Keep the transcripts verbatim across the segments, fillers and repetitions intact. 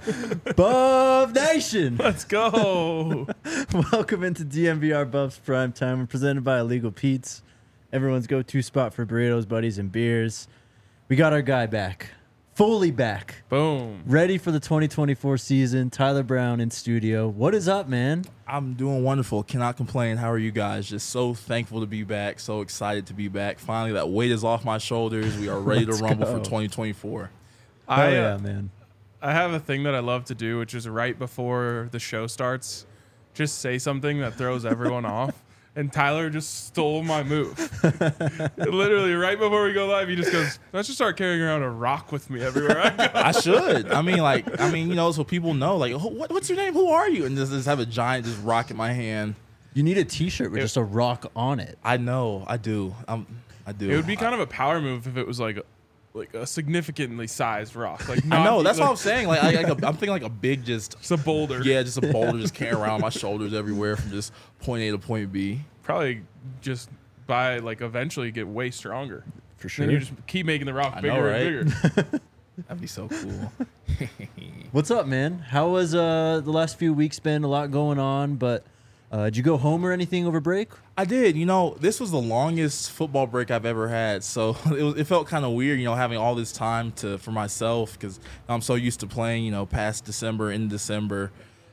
Buff Nation. Let's go. Welcome into D M V R Buffs Prime Time. We're presented by Illegal Pete's, everyone's go-to spot for burritos, buddies, and beers. We got our guy back, fully back, Boom. ready for the twenty twenty-four season. Tyler Brown in studio. What is up, man? I'm doing wonderful. Cannot complain. How are you guys? Just so thankful to be back. So excited to be back. Finally, that weight is off my shoulders. We are ready to Let's rumble go. for twenty twenty-four. Hell I, yeah, uh, man. I have a thing that I love to do, which is right before the show starts, just say something that throws everyone off. And Tyler just stole my move. Literally, right before we go live, he just goes, let's just start carrying around a rock with me everywhere I go. I should. I mean, like, I mean, you know, so people know, like, "Who- what, what's your name? Who are you? And just, just have a giant just rock in my hand. You need a T-shirt with It- just a rock on it. I know. I do. I'm, I do. It would be kind of a power move if it was like a, like a significantly sized rock. Like I not- know. That's like, what I'm saying. Like, I, like a, I'm thinking like a big just, It's a boulder. yeah, just a boulder just carrying around my shoulders everywhere from just point A to point B. Probably just by like eventually get way stronger. For sure. Then you just keep making the rock I bigger know, and right? bigger. That'd be so cool. What's up, man? How was uh, the last few weeks been? A lot going on, but uh, did you go home or anything over break? I did. You know, this was the longest football break I've ever had, so it, was, it felt kind of weird, you know, having all this time to for myself because I'm so used to playing, you know, past December, in December.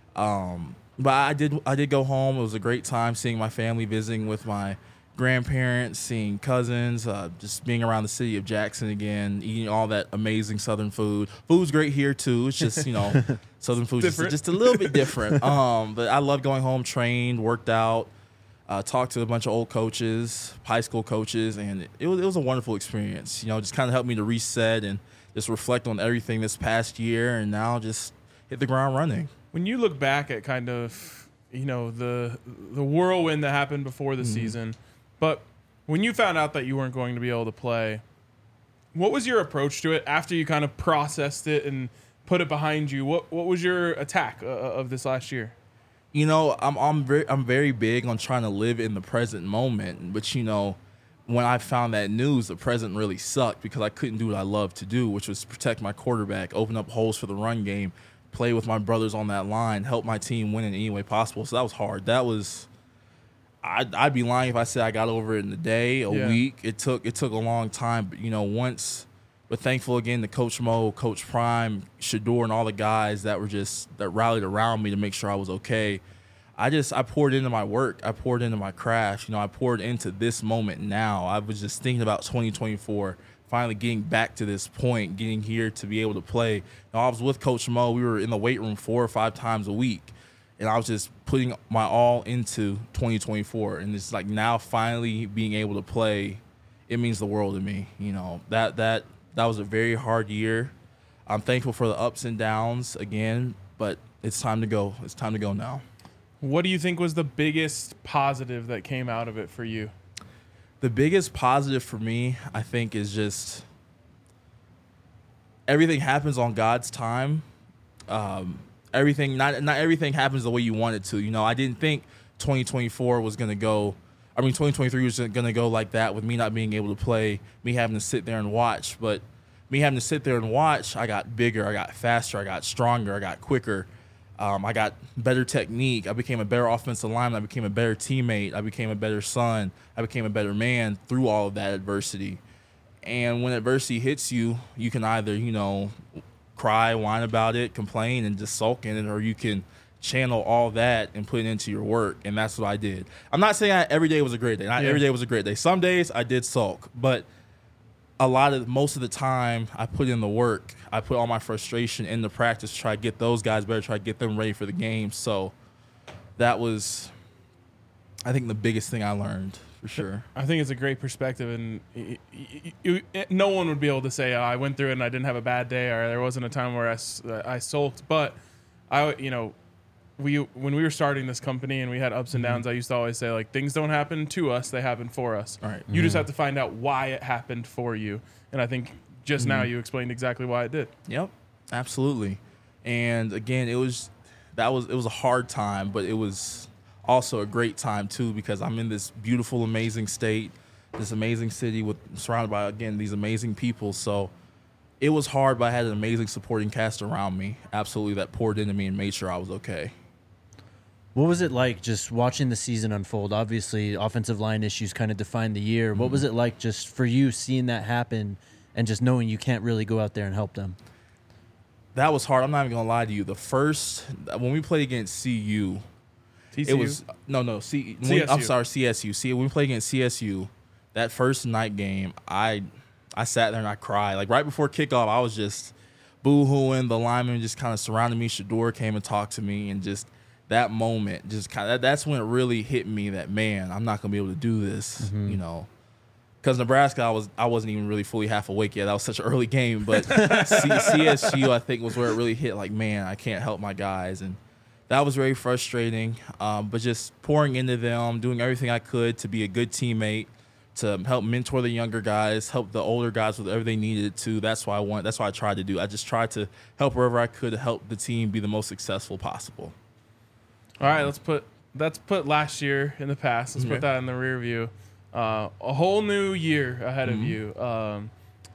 Um, but I did, I did go home. It was a great time seeing my family, visiting with my grandparents, seeing cousins, uh, just being around the city of Jackson again, eating all that amazing Southern food. Food's great here too. It's just, you know, Southern food just, Different. just a little bit different. Um, but I love going home, trained, worked out. Uh, talked to a bunch of old coaches, high school coaches, and it was it was a wonderful experience. You know, just kind of helped me to reset and just reflect on everything this past year, and now just hit the ground running. When you look back at kind of, you know, the the whirlwind that happened before the Mm-hmm. season, but when you found out that you weren't going to be able to play, what was your approach to it after you kind of processed it and put it behind you? What what was your attack uh, of this last year? You know, I'm I'm very I'm very big on trying to live in the present moment, but you know, when I found that news, the present really sucked because I couldn't do what I love to do, which was protect my quarterback, open up holes for the run game, play with my brothers on that line, help my team win in any way possible. So that was hard. That was I'd, I'd be lying if I said I got over it in a day, a Yeah. week. It took it took a long time, but you know, once. But thankful again to Coach Mo, Coach Prime, Shador, and all the guys that were just that rallied around me to make sure I was okay. I just I poured into my work. I poured into my craft. You know, I poured into this moment now. I was just thinking about twenty twenty-four, finally getting back to this point, getting here to be able to play. You know, I was with Coach Mo. We were in the weight room four or five times a week, and I was just putting my all into twenty twenty-four. And it's like now finally being able to play, it means the world to me. You know, that that. That was a very hard year. I'm thankful for the ups and downs again, but it's time to go. It's time to go now. What do you think was the biggest positive that came out of it for you? The biggest positive for me, I think, is just everything happens on God's time. Um, everything, not not everything happens the way you want it to. You know, I didn't think twenty twenty-four was going to go I mean, twenty twenty-three was going to go like that with me not being able to play, me having to sit there and watch. But me having to sit there and watch, I got bigger, I got faster, I got stronger, I got quicker. Um, I got better technique. I became a better offensive lineman. I became a better teammate. I became a better son. I became a better man through all of that adversity. And when adversity hits you, you can either, you know, cry, whine about it, complain, and just sulk in it, or you can channel all that and put it into your work, and that's what I did. I'm not saying I, every day was a great day. Not Yeah. every day was a great day. Some days I did sulk, but a lot of most of the time I put in the work. I put all my frustration into practice, try to get those guys better, try to get them ready for the game. So that was, I think, the biggest thing I learned for sure. I think it's a great perspective, and y- y- y- y- no one would be able to say, oh, I went through it and I didn't have a bad day, or there wasn't a time where I, s- uh, I sulked. But I, you know, we when we were starting this company and we had ups and downs, I used to always say, like, things don't happen to us, they happen for us. All right. You just have to find out why it happened for you. And I think just now you explained exactly why it did. Yep, absolutely. And again, it was that was it was a hard time, but it was also a great time too, because I'm in this beautiful, amazing state, this amazing city with surrounded by, again, these amazing people. So it was hard, but I had an amazing supporting cast around me, absolutely, that poured into me and made sure I was okay. What was it like just watching the season unfold? Obviously, offensive line issues kind of defined the year. What was it like just for you seeing that happen and just knowing you can't really go out there and help them? That was hard. I'm not even going to lie to you. The first, when we played against C U, T C U? it was, no, no, C, C S U. I'm sorry, C S U. See, when we played against C S U, that first night game, I I sat there and I cried. Like right before kickoff, I was just boo-hooing. The linemen just kind of surrounded me. Shador came and talked to me, and just that moment, just kind of, that's when it really hit me that, man, I'm not going to be able to do this, mm-hmm. you know. Because Nebraska, I, was, I wasn't even really fully half awake yet. That was such an early game. But C- CSU, I think, was where it really hit, like, man, I can't help my guys. And that was very frustrating. Um, but just pouring into them, doing everything I could to be a good teammate, to help mentor the younger guys, help the older guys with whatever they needed to. That's what I want. That's what I tried to do. I just tried to help wherever I could to help the team be the most successful possible. All right, let's put let's put last year in the past. Let's Okay. put that in the rear view. Uh, a whole new year ahead Mm-hmm. of you. Um,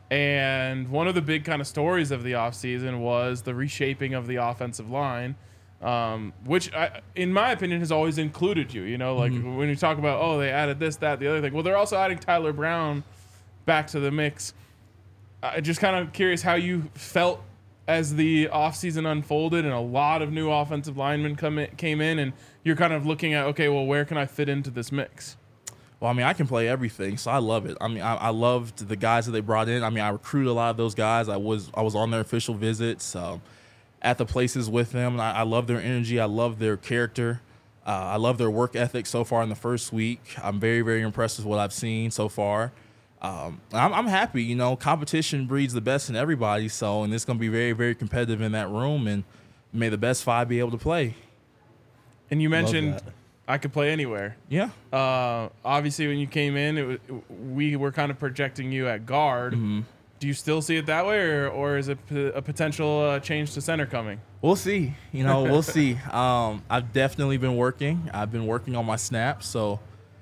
and one of the big kind of stories of the offseason was the reshaping of the offensive line, um, which, I, in my opinion, has always included you. You know, like Mm-hmm. when you talk about, oh, they added this, that, the other thing. Well, they're also adding Tyler Brown back to the mix. I'm just kind of curious how you felt as the offseason unfolded and a lot of new offensive linemen come in, came in, and you're kind of looking at, okay, well, where can I fit into this mix? Well, I mean, I can play everything, so I love it. I mean, I, I loved the guys that they brought in. I mean, I recruited a lot of those guys. I was I was on their official visits, um, at the places with them, and I, I love their energy. I love their character. Uh, I love their work ethic so far in the first week. I'm very, very impressed with what I've seen so far. Um, I'm, I'm happy. You know, competition breeds the best in everybody, so, and it's going to be very, very competitive in that room, and may the best five be able to play. And you mentioned that. I could play anywhere. Yeah. Uh, obviously, when you came in, it was, we were kind of projecting you at guard. Mm-hmm. Do you still see it that way, or, or is it p- a potential uh, change to center coming? We'll see. You know, we'll see. Um, I've definitely been working. I've been working on my snaps, so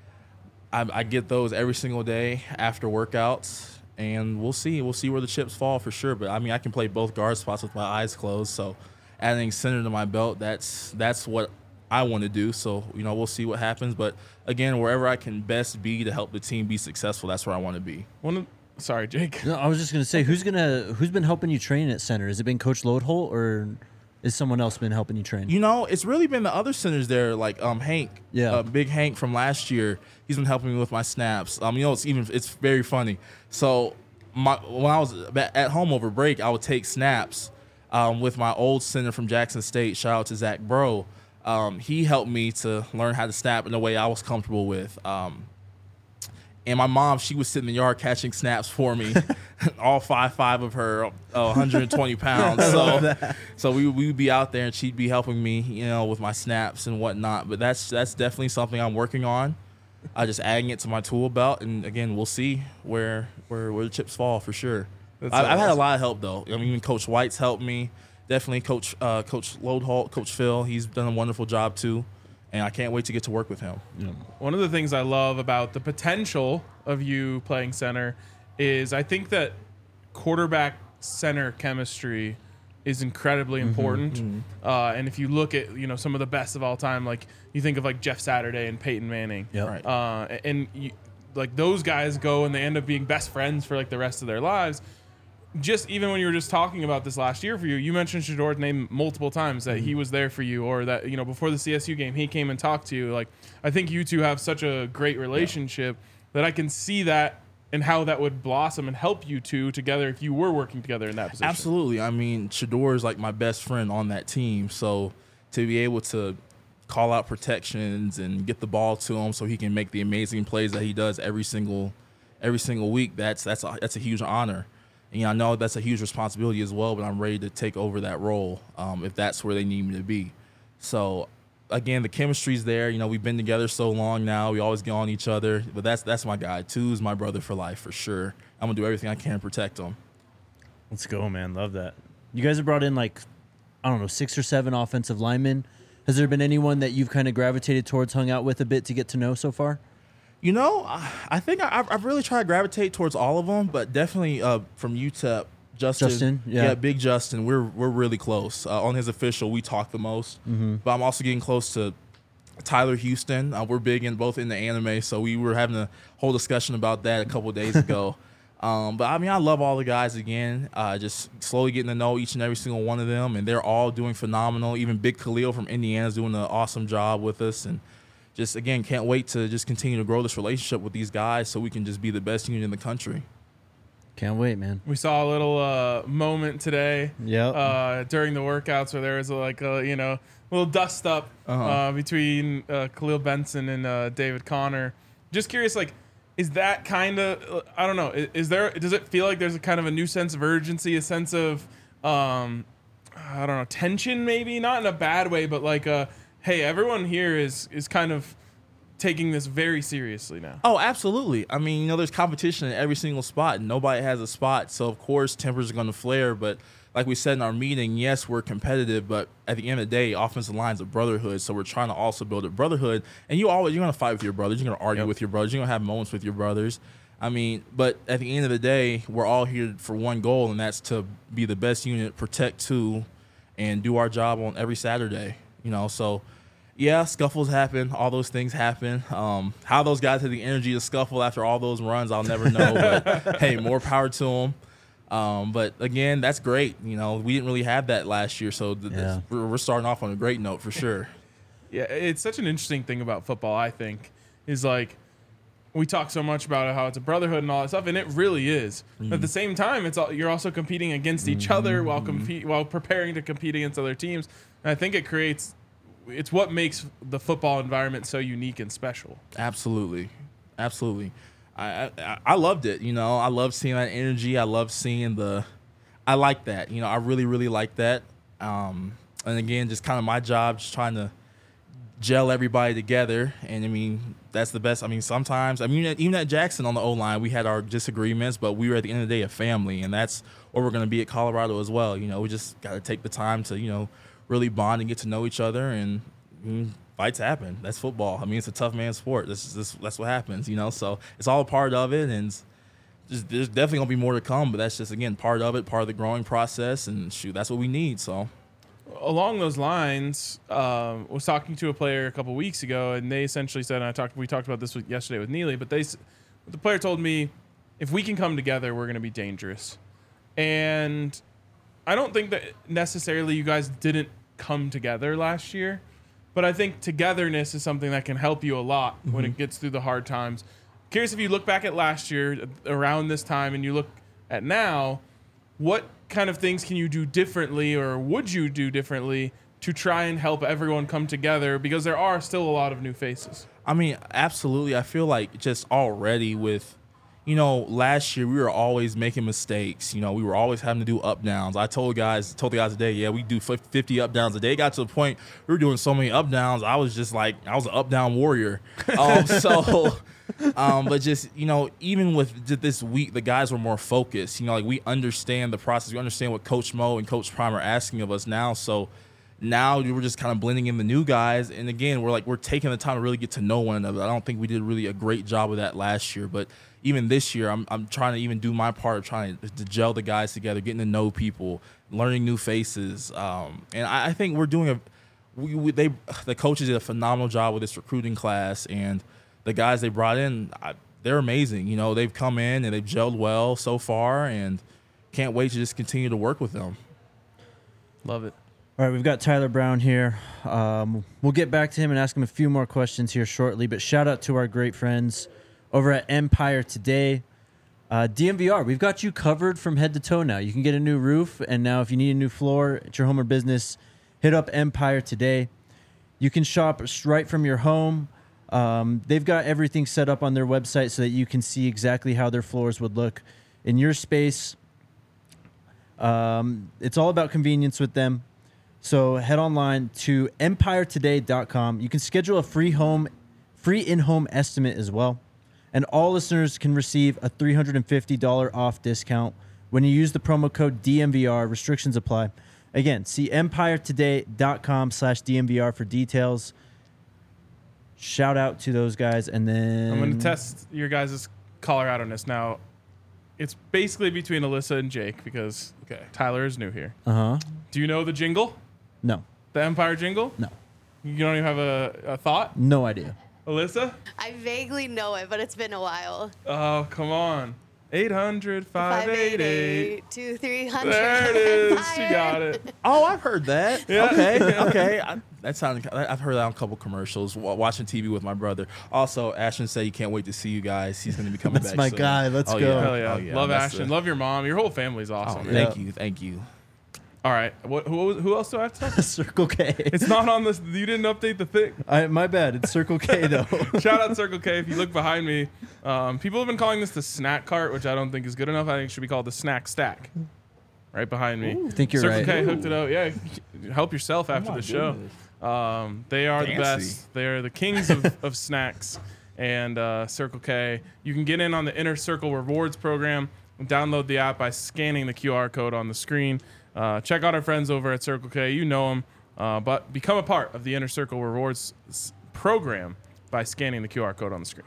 I, I get those every single day after workouts, and we'll see. We'll see where the chips fall for sure. But I mean, I can play both guard spots with my eyes closed. So adding center to my belt, that's that's what I want to do. So you know, we'll see what happens. But again, wherever I can best be to help the team be successful, that's where I want to be. One of, sorry, Jake. No, I was just gonna say, who's gonna who's been helping you train at center? Has it been Coach Loadholt, or is someone else been helping you train? You know, it's really been the other centers there, like um Hank, Yeah. uh, Big Hank from last year. He's been helping me with my snaps. Um, you know, it's even it's very funny. So my when I was at home over break, I would take snaps um, with my old center from Jackson State. Shout out to Zach Bro. Um, he helped me to learn how to snap in a way I was comfortable with. Um, and my mom, she would sit in the yard catching snaps for me, all five five of her, uh, one hundred twenty pounds. So, so we we would be out there and she'd be helping me, you know, with my snaps and whatnot. But that's that's definitely something I'm working on. I just adding it to my tool belt, and again, we'll see where where where the chips fall for sure. That's I, I've had a awesome. lot of help though. I mean, even Coach White's helped me. Definitely, Coach uh, Coach Loadholt, Coach Phil. He's done a wonderful job too, and I can't wait to get to work with him. One of the things I love about the potential of you playing center is I think that quarterback center chemistry is incredibly important. Uh, and if you look at, you know, some of the best of all time, like you think of like Jeff Saturday and Peyton Manning. Yep. Right. Uh, and you, like those guys go and they end up being best friends for like the rest of their lives. Just even when you were just talking about this last year for you, you mentioned Shador's name multiple times that he was there for you, or that, you know, before the C S U game, he came and talked to you. Like, I think you two have such a great relationship that I can see that and how that would blossom and help you two together if you were working together in that position. Absolutely. I mean, Shador is like my best friend on that team. So to be able to call out protections and get the ball to him so he can make the amazing plays that he does every single every single week, that's that's a, that's a huge honor. And, you know, I know that's a huge responsibility as well, but I'm ready to take over that role um, if that's where they need me to be. So, again, the chemistry's there. You know, we've been together so long now. We always get on each other. But that's that's my guy. Two's my brother for life, for sure. I'm going to do everything I can to protect him. Let's go, man. Love that. You guys have brought in like, I don't know, six or seven offensive linemen. Has there been anyone that you've kind of gravitated towards, hung out with a bit to get to know so far? You know, I I think I, I've really tried to gravitate towards all of them, but definitely uh, from U T E P, Justin, Justin, yeah. Big Justin. We're we're really close. Uh, on his official, we talk the most. Mm-hmm. But I'm also getting close to Tyler Houston. Uh, we're big in both in the anime, so we were having a whole discussion about that a couple of days ago. um, but I mean, I love all the guys again. Uh, just slowly getting to know each and every single one of them, and they're all doing phenomenal. Even Big Khalil from Indiana is doing an awesome job with us, and just again can't wait to just continue to grow this relationship with these guys so we can just be the best unit in the country. Can't wait, man. We saw a little uh, moment today Yep. uh, during the workouts where there was a, like a you know little dust up Uh-huh. uh, between uh, Khalil Benson and uh, David Connor. Just curious, like, is that kind of I don't know? Is, is there? Does it feel like there's a kind of a new sense of urgency, a sense of um, I don't know, tension? Maybe not in a bad way, but like, uh, hey, everyone here is is kind of taking this very seriously now. Oh, absolutely. I mean, you know, there's competition in every single spot, and nobody has a spot. So, of course, tempers are going to flare. But like we said in our meeting, yes, we're competitive, but at the end of the day, offensive line's a brotherhood. So we're trying to also build a brotherhood. And you always, you're going to fight with your brothers. You're going to argue Yep. with your brothers. You're going to have moments with your brothers. I mean, but at the end of the day, we're all here for one goal, and that's to be the best unit, protect two, and do our job on every Saturday. You know, so yeah, scuffles happen. All those things happen. Um, how those guys had the energy to scuffle after all those runs, I'll never know. But hey, more power to them. Um, but again, that's great. You know, we didn't really have that last year, so th- Yeah. we're, we're starting off on a great note for sure. Yeah, it's such an interesting thing about football, I think, is like we talk so much about how it's a brotherhood and all that stuff, and it really is. Mm-hmm. But at the same time, it's all, you're also competing against each Mm-hmm. other while compete while preparing to compete against other teams. And I think it creates it's what makes the football environment so unique and special. Absolutely, absolutely. I, I I loved it. You know, I love seeing that energy. I love seeing the. I like that. You know, I really really like that. Um, and again, just kind of my job, just trying to gel everybody together. And I mean, that's the best. I mean, sometimes I mean, even at Jackson on the O line, we had our disagreements, but we were at the end of the day a family, and that's what we're going to be at Colorado as well. You know, we just got to take the time to you know really bond and get to know each other, and I mean, fights happen. That's football. I mean, it's a tough man's sport. That's just, that's what happens, you know. So it's all a part of it, and just, there's definitely gonna be more to come. But that's just again part of it, part of the growing process, and shoot, that's what we need. So Along those lines, um, I was talking to a player a couple weeks ago, and they essentially said, and I talked, we talked about this with, yesterday with Neely, but they, s- the player told me, if we can come together, we're going to be dangerous. And I don't think that necessarily you guys didn't come together last year, but I think togetherness is something that can help you a lot when it gets through the hard times. Curious if you look back at last year around this time and you look at now, what kind of things can you do differently or would you do differently to try and help everyone come together? Because there are still a lot of new faces. I mean, absolutely. I feel like just already with, you know, last year we were always making mistakes. You know, we were always having to do up downs. I told guys, told the guys today, yeah, we do fifty up downs a day. It got to the point we were doing so many up downs. I was just like, I was an up down warrior. Um, so, um, but just you know, even with just this week, the guys were more focused. You know, like we understand the process. We understand what Coach Mo and Coach Prime are asking of us now. So. Now we're just kind of blending in the new guys, and again, we're like we're taking the time to really get to know one another. I don't think we did really a great job of that last year, but even this year, I'm I'm trying to even do my part of trying to, to gel the guys together, getting to know people, learning new faces, um, and I, I think we're doing a. We, we, they the coaches did a phenomenal job with this recruiting class, and the guys they brought in, I, they're amazing. You know, they've come in and they've gelled well so far, and can't wait to just continue to work with them. Love it. All right, we've got Tyler Brown here. Um, we'll get back to him and ask him a few more questions here shortly, but shout out to our great friends over at Empire Today. Uh, D M V R, we've got you covered from head to toe now. You can get a new roof, and now if you need a new floor at your home or business, hit up Empire Today. You can shop right from your home. Um, they've got everything set up on their website so that you can see exactly how their floors would look in your space. Um, it's all about convenience with them. So head online to empire today dot com. You can schedule a free home, free in-home estimate as well. And all listeners can receive a three hundred fifty dollars off discount when you use the promo code D M V R. Restrictions apply. Again, see empire today dot com slash D M V R for details. Shout out to those guys. And then I'm going to test your guys' Colorado-ness. Now, it's basically between Alyssa and Jake because Okay. Tyler is new here. Uh huh. Do you know the jingle? No. The Empire jingle? No. You don't even have a, a thought? No idea. Alyssa? I vaguely know it, but it's been a while. Oh, come on. eight hundred, five eighty-eight. two, three hundred. There it is. She got it. Oh, I've heard that. Yeah. Okay, okay. I, that sounded. I've heard that on a couple commercials. wa- Watching T V with my brother. Also, Ashton said he can't wait to see you guys. He's going to be coming That's back. my soon. guy. Let's Oh, go. Yeah. Hell yeah. Oh, yeah. Love That's Ashton. the- Love your mom. Your whole family's Oh, awesome. yeah. thank you, thank you. All right. What, who, who else do I have to talk to? Circle K. It's not on this. You didn't update the thing. I, my bad. It's Circle K though. Shout out Circle K. If you look behind me, um, people have been calling this the snack cart, which I don't think is good enough. I think it should be called the snack stack. Right behind me. I think you're Circle right. K hooked it out. Yeah, help yourself after my the show. goodness. Um, they are the Fancy. best. They are the kings of, of snacks. And uh, Circle K, you can get in on the Inner Circle Rewards program and download the app by scanning the Q R code on the screen. Uh, check out our friends over at Circle K. You know them, uh, but become a part of the Inner Circle Rewards s- program by scanning the Q R code on the screen.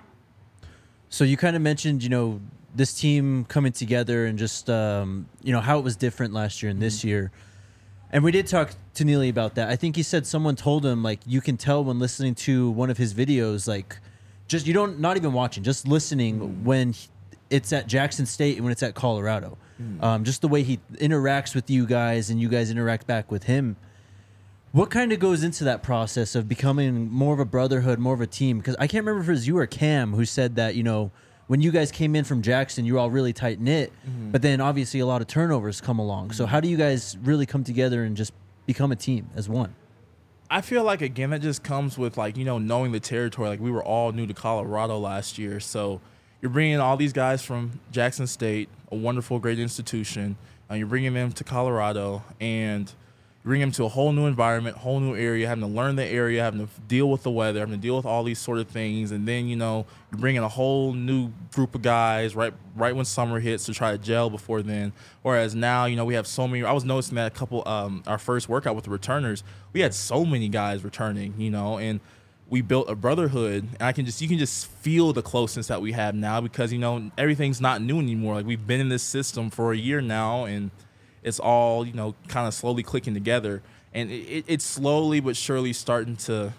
So you kind of mentioned, you know, this team coming together and just, um, you know, how it was different last year and this year. And we did talk to Neely about that. I think he said someone told him, like, you can tell when listening to one of his videos, like, just, you don't, not even watching, just listening when he- it's at Jackson State and when it's at Colorado. Um, just the way he interacts with you guys and you guys interact back with him. What kind of goes into that process of becoming more of a brotherhood, more of a team? Because I can't remember if it was you or Cam who said that, you know, when you guys came in from Jackson, you were all really tight knit, but then obviously a lot of turnovers come along. So how do you guys really come together and just become a team as one? I feel like again that just comes with like you know knowing the territory. Like we were all new to Colorado last year, so you're bringing all these guys from Jackson State, a wonderful, great institution, and you're bringing them to Colorado, and you bring them to a whole new environment, whole new area, having to learn the area, having to deal with the weather, having to deal with all these sort of things, and then you know you're bringing a whole new group of guys right right when summer hits to try to gel before then. Whereas now, you know, we have so many. I was noticing that a couple, um, our first workout with the returners, we had so many guys returning, you know, and we built a brotherhood, and I can just you can just feel the closeness that we have now because you know everything's not new anymore. Like we've been in this system for a year now, and it's all you know kind of slowly clicking together, and it, it, it's slowly but surely starting to.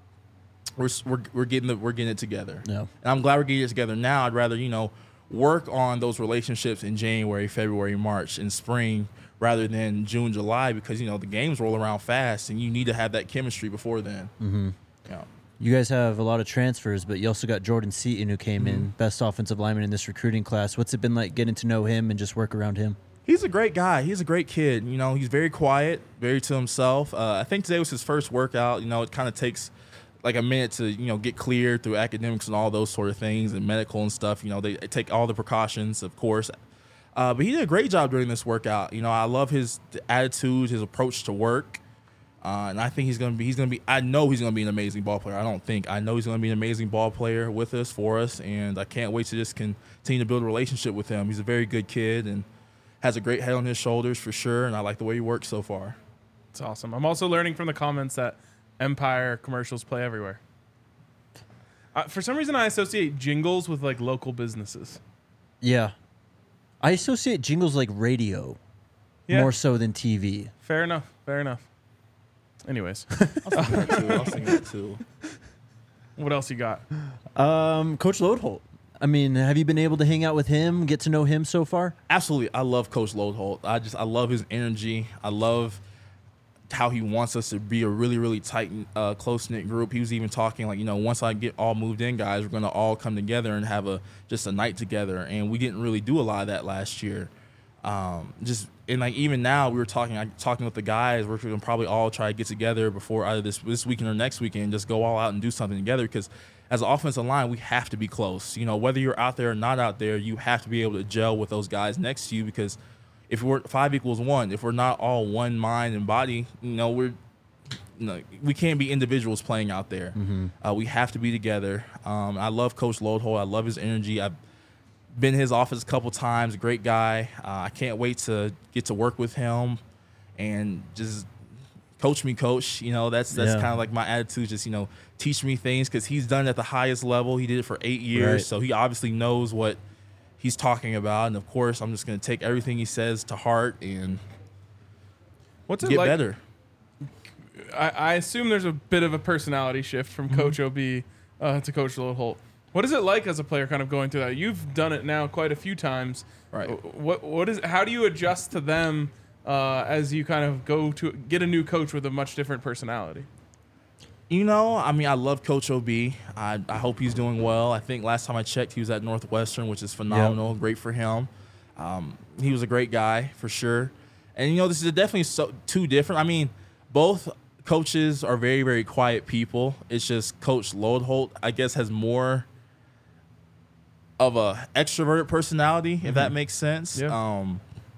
We're, we're we're getting the, we're getting it together, Yeah. and I'm glad we're getting it together now. I'd rather you know work on those relationships in January, February, March, and spring rather than June, July because you know the games roll around fast, and you need to have that chemistry before then. Mm-hmm. Yeah. You guys have a lot of transfers, but you also got Jordan Seaton who came in, best offensive lineman in this recruiting class. What's it been like getting to know him and just work around him? He's a great guy. He's a great kid. You know, he's very quiet, very to himself. Uh, I think today was his first workout. You know, it kind of takes like a minute to, you know, get cleared through academics and all those sort of things and medical and stuff. You know, they take all the precautions, of course. Uh, but he did a great job during this workout. You know, I love his attitude, his approach to work. Uh, and I think he's going to be, he's going to be, I know he's going to be an amazing ball player. I don't think, I know he's going to be an amazing ball player with us, for us. And I can't wait to just continue to build a relationship with him. He's a very good kid and has a great head on his shoulders for sure. And I like the way he works so far. It's awesome. I'm also learning from the comments that Empire commercials play everywhere. Uh, for some reason, I associate jingles with like local businesses. Yeah. I associate jingles like radio Yeah, more so than T V. fair enough. Fair enough. Anyways, I was thinking that too. I was thinking that too. what else you got? Um, Coach Lodeholt. I mean, have you been able to hang out with him, get to know him so far? Absolutely. I love Coach Lodeholt. I just, I love his energy. I love how he wants us to be a really, really tight, uh, close-knit group. He was even talking like, you know, once I get all moved in, guys, we're going to all come together and have a just a night together. And we didn't really do a lot of that last year. Um, just and like even now we were talking, I, talking with the guys. We're going to probably all try to get together before either this this weekend or next weekend, just go all out and do something together. Because as an offensive line, we have to be close. You know, whether you're out there or not out there, you have to be able to gel with those guys next to you. Because if we're five equals one, if we're not all one mind and body, you know, we're you know, we can't be individuals playing out there. Mm-hmm. Uh, we have to be together. Um, I love Coach Lodeholt. I love his energy. I've been in his office a couple times. Great guy. Uh, I can't wait to get to work with him and just coach me, coach. You know, that's that's Yeah. kind of like my attitude. Just you know, teach me things because he's done it at the highest level. He did it for eight years, Right. so he obviously knows what he's talking about. And of course, I'm just going to take everything he says to heart and What's it get like? better. I, I assume there's a bit of a personality shift from Mm-hmm. Coach O B uh, to Coach Lodeholt. What is it like as a player, kind of going through that? You've done it now quite a few times. Right. What what is? How do you adjust to them uh, as you kind of go to get a new coach with a much different personality? You know, I mean, I love Coach O B. I, I hope he's doing well. I think last time I checked, he was at Northwestern, which is phenomenal. Great for him. Um, he was a great guy for sure. And, you know, this is definitely so, two different. I mean, both coaches are very, very quiet people. It's just Coach Lodeholt, I guess, has more of a extroverted personality, if that makes sense. Yeah. Um,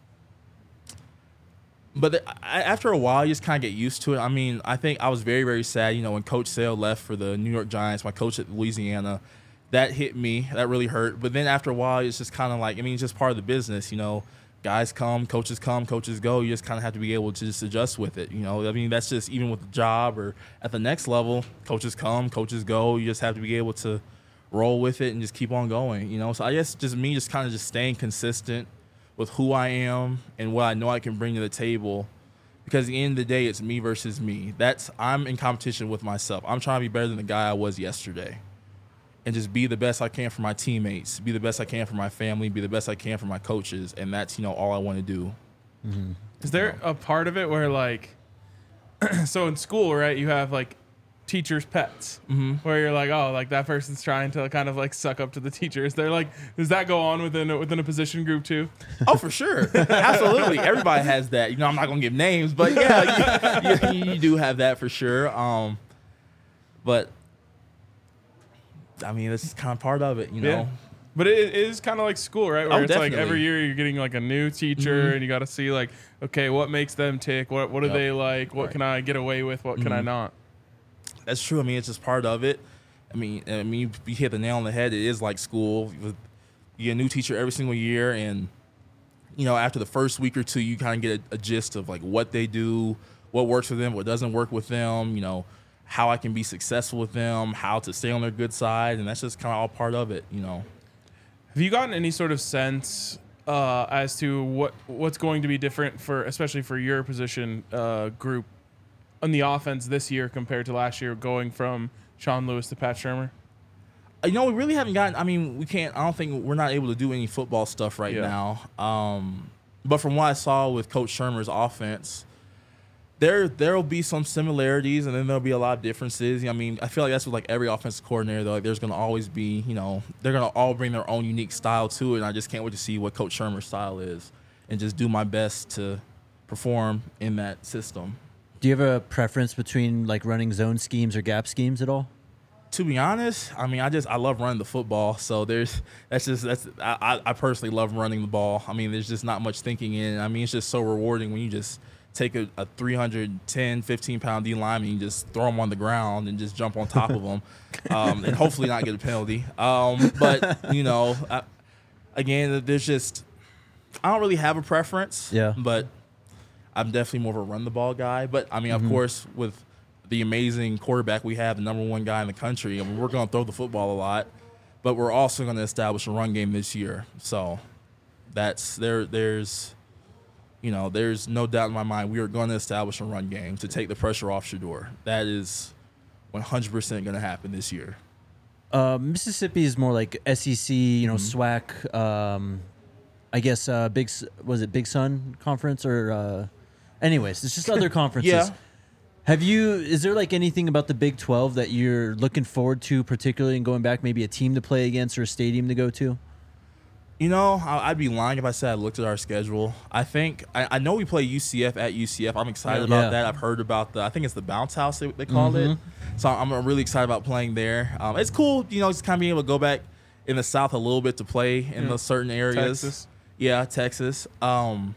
but the, I, after a while, you just kind of get used to it. I mean, I think I was very, very sad, you know, when Coach Sale left for the New York Giants, my coach at Louisiana. That hit me. That really hurt. But then after a while, it's just kind of like, I mean, it's just part of the business, you know. Guys come, coaches come, coaches go. You just kind of have to be able to just adjust with it, you know. I mean, that's just even with the job or at the next level, coaches come, coaches go. You just have to be able to roll with it and just keep on going, you know. So I guess just me just kind of just staying consistent with who I am and what I know I can bring to the table, because at the end of the day, it's me versus me. That's I'm in competition with myself. I'm trying to be better than the guy I was yesterday, and just be the best I can for my teammates, be the best I can for my family, be the best I can for my coaches, and that's, you know, all I want to do. Mm-hmm. Is there a part of it where, like, so in school, right, you have like teachers' pets, Mm-hmm. where you're like, oh, like that person's trying to kind of like suck up to the teachers. They're like, does that go on within a, within a position group too? Oh, for sure. Absolutely. Everybody has that. You know, I'm not going to give names, but yeah, you, you, you do have that for sure. Um, but, I mean, this is kind of part of it, you know. Yeah. But it, it is kind of like school, right? Where Oh, it's like definitely. every year you're getting like a new teacher, Mhm. and you got to see like, okay, what makes them tick? What what do Yep. they like? What Right. can I get away with? What can I Mhm. not? That's true. I mean, it's just part of it. I mean, I mean, you, you hit the nail on the head. It is like school. You get a new teacher every single year, and you know, after the first week or two, you kind of get a, a gist of like what they do, what works for them, what doesn't work with them. You know, how I can be successful with them, how to stay on their good side, and that's just kind of all part of it. You know. Have you gotten any sort of sense uh, as to what what's going to be different for, especially for your position uh, group, on the offense this year compared to last year, going from Sean Lewis to Pat Shermer? You know, we really haven't gotten. I mean, we can't. I don't think we're not able to do any football stuff right Yeah. now. Um, but from what I saw with Coach Shermer's offense, there there'll be some similarities, and then there'll be a lot of differences. I mean, I feel like that's with like every offensive coordinator. Though, like, there's going to always be, you know, they're going to all bring their own unique style to it. And I just can't wait to see what Coach Shermer's style is, and just do my best to perform in that system. Do you have a preference between like running zone schemes or gap schemes at all? To be honest, I mean, I just I love running the football. So there's that's just that's I, I personally love running the ball. I mean, there's just not much thinking in it. I mean, it's just so rewarding when you just take a, a three hundred ten, fifteen pound D lineman and you just throw them on the ground and just jump on top of them, um, and hopefully not get a penalty. Um, but you know, I, again, there's just I don't really have a preference. Yeah. But I'm definitely more of a run the ball guy. But I mean, Mhm. of course, with the amazing quarterback we have, the number one guy in the country, I mean, we're going to throw the football a lot, but we're also going to establish a run game this year. So that's there. There's, you know, there's no doubt in my mind we are going to establish a run game to take the pressure off Shador. That is one hundred percent going to happen this year. Uh, Mississippi is more like S E C, you know, Mhm. SWAC. Um, I guess uh, Big S- was it Big Sun Conference or, uh, anyways, it's just other conferences. Yeah. Have you? Is there like anything about the Big twelve that you're looking forward to, particularly in going back, maybe a team to play against or a stadium to go to? You know, I- I'd be lying if I said I looked at our schedule. I think I, I know we play U C F at U C F. I'm excited Yeah. about that. I've heard about the. I think it's the bounce house they, they call Mhm. it. So I'm really excited about playing there. Um, it's cool, you know, just kind of being able to go back in the South a little bit to play in Yeah. those certain areas. Texas. Yeah, Texas. Um,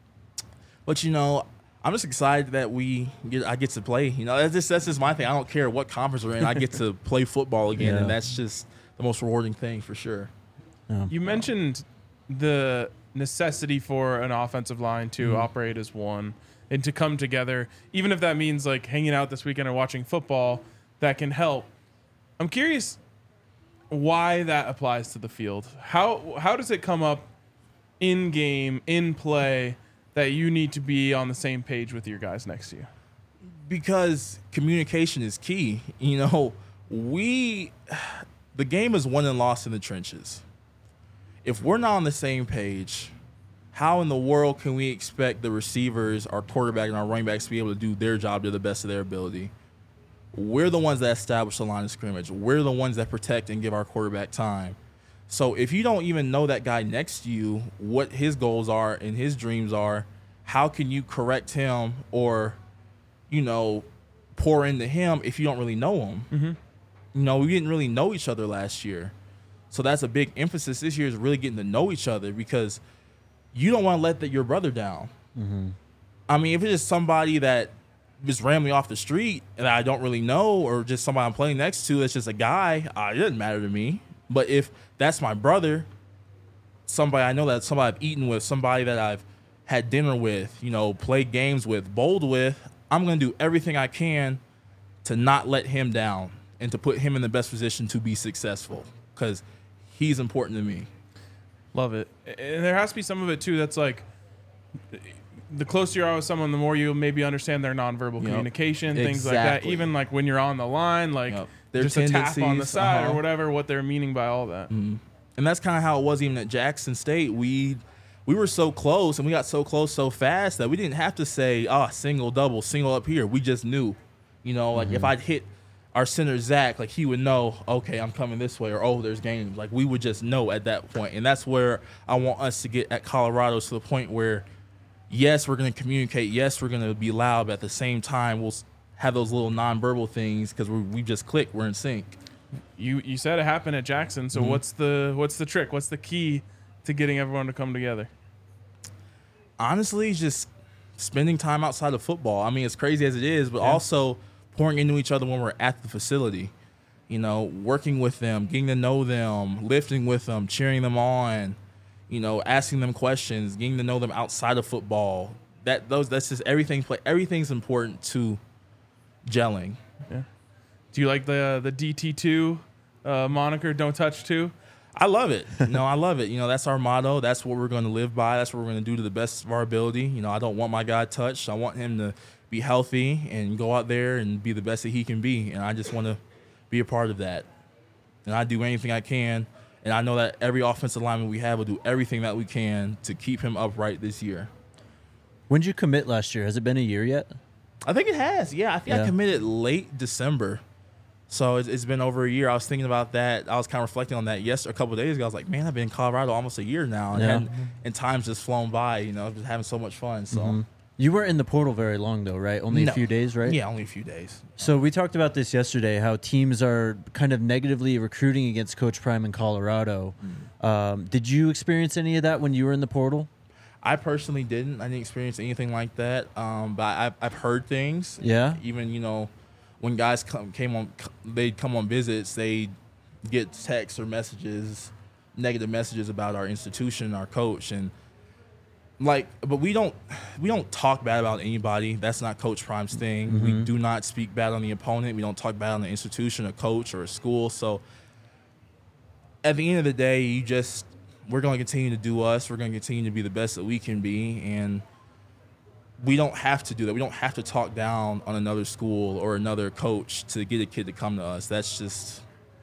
but you know, I'm just excited that we get. I get to play. You know, that's just that's just my thing. I don't care what conference we're in. I get to play football again, Yeah. and that's just the most rewarding thing for sure. No. You mentioned the necessity for an offensive line to Mhm. operate as one and to come together, even if that means like hanging out this weekend or watching football, that can help. I'm curious, why that applies to the field. How how does it come up in game, in play, that you need to be on the same page with your guys next to you? Because communication is key. You know, we the game is won and lost in the trenches. If we're not on the same page, how in the world can we expect the receivers, our quarterback, and our running backs to be able to do their job to the best of their ability? We're the ones that establish the line of scrimmage. We're the ones that protect and give our quarterback time. So if you don't even know that guy next to you, what his goals are and his dreams are, how can you correct him or, you know, pour into him if you don't really know him? Mm-hmm. You know, we didn't really know each other last year. So that's a big emphasis this year, is really getting to know each other, because you don't want to let the, your brother down. Mm-hmm. I mean, if it's just somebody that just randomly off the street and I don't really know, or just somebody I'm playing next to that's just a guy, uh, it doesn't matter to me. But if that's my brother, somebody I know, that somebody I've eaten with, somebody that I've had dinner with, you know, played games with, bowled with, I'm going to do everything I can to not let him down and to put him in the best position to be successful, because he's important to me. Love it. And there has to be some of it too that's like, the closer you are with someone, the more you maybe understand their nonverbal Yep. communication, things like that. Exactly. Even like when you're on the line, like Yep. Their just a tap on the tendencies, side uh-huh. or whatever, what they're meaning by all that. Mm. And that's kind of how it was even at Jackson State. We we were so close, and we got so close so fast that we didn't have to say, oh, single, double, single up here. We just knew. You know, like Mm-hmm. if I'd hit our center, Zach, like he would know, okay, I'm coming this way, or, oh, there's games. Like we would just know at that point. And that's where I want us to get at Colorado, to the point where, yes, we're going to communicate. Yes, we're going to be loud, but at the same time, we'll have those little nonverbal things, because we we just click. We're in sync. You you said it happened at Jackson, so Mhm. what's the what's the trick? What's the key to getting everyone to come together? Honestly, just spending time outside of football. I mean, as crazy as it is, but Yeah. also pouring into each other when we're at the facility. You know, working with them, getting to know them, lifting with them, cheering them on, you know, asking them questions, getting to know them outside of football. That those that's just everything. Everything's important to gelling. Do you like the the D T two uh, moniker? Don't touch two. I love it. No, I love it. You know, that's our motto. That's what we're going to live by. That's what we're going to do to the best of our ability. You know, I don't want my guy touched. I want him to be healthy and go out there and be the best that he can be. And I just want to be a part of that. And I do anything I can. And I know that every offensive lineman we have will do everything that we can to keep him upright this year. When did you commit last year? Has it been a year yet? I think it has. Yeah, I think Yeah. I committed late December. So it's, it's been over a year. I was thinking about that. I was kind of reflecting on that yesterday, a couple of days ago. I was like, man, I've been in Colorado almost a year now. And, Yeah. and, and time's just flown by, you know, just having so much fun. So, Mhm. You weren't in the portal very long, though, right? Only No. a few days, right? yeah, only a few days. So we talked about this yesterday, how teams are kind of negatively recruiting against Coach Prime in Colorado. Um, did you experience any of that when you were in the portal? I personally didn't. I didn't experience anything like that. Um, but I've, I've heard things. Yeah? Even, you know, when guys come, came on, they'd come on visits, they'd get texts or messages, negative messages about our institution, our coach. And, like, but we don't we don't talk bad about anybody. That's not Coach Prime's thing. We do not speak bad on the opponent. We don't talk bad on the institution, a coach, or a school. So at the end of the day, you just we're going to continue to do us. We're going to continue to be the best that we can be, and we don't have to do that. We don't have to talk down on another school or another coach to get a kid to come to us. That's just,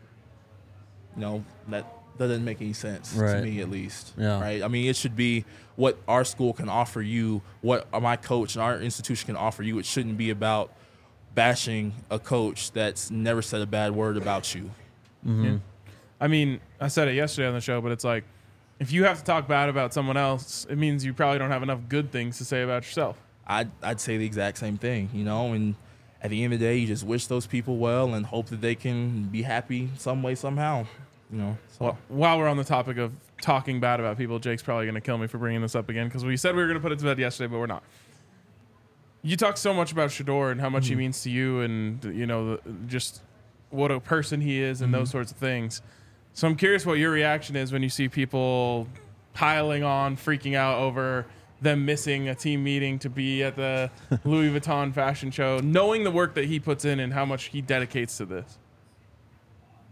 you know, that that doesn't make any sense to Right. me, at least. Yeah. Right. I mean, it should be what our school can offer you, what my coach and our institution can offer you. It shouldn't be about bashing a coach that's never said a bad word about you. Mm-hmm. I mean, I said it yesterday on the show, but it's like, if you have to talk bad about someone else, it means you probably don't have enough good things to say about yourself. I'd, I'd say the exact same thing, you know, and at the end of the day, you just wish those people well and hope that they can be happy some way, somehow, you know. So. Well, while we're on the topic of talking bad about people, Jake's probably going to kill me for bringing this up again, because we said we were going to put it to bed yesterday, but we're not. You talk so much about Shedeur and how much he means to you, and, you know, the, just what a person he is and those sorts of things. So I'm curious what your reaction is when you see people piling on, freaking out over them missing a team meeting to be at the Louis Vuitton fashion show, knowing the work that he puts in and how much he dedicates to this.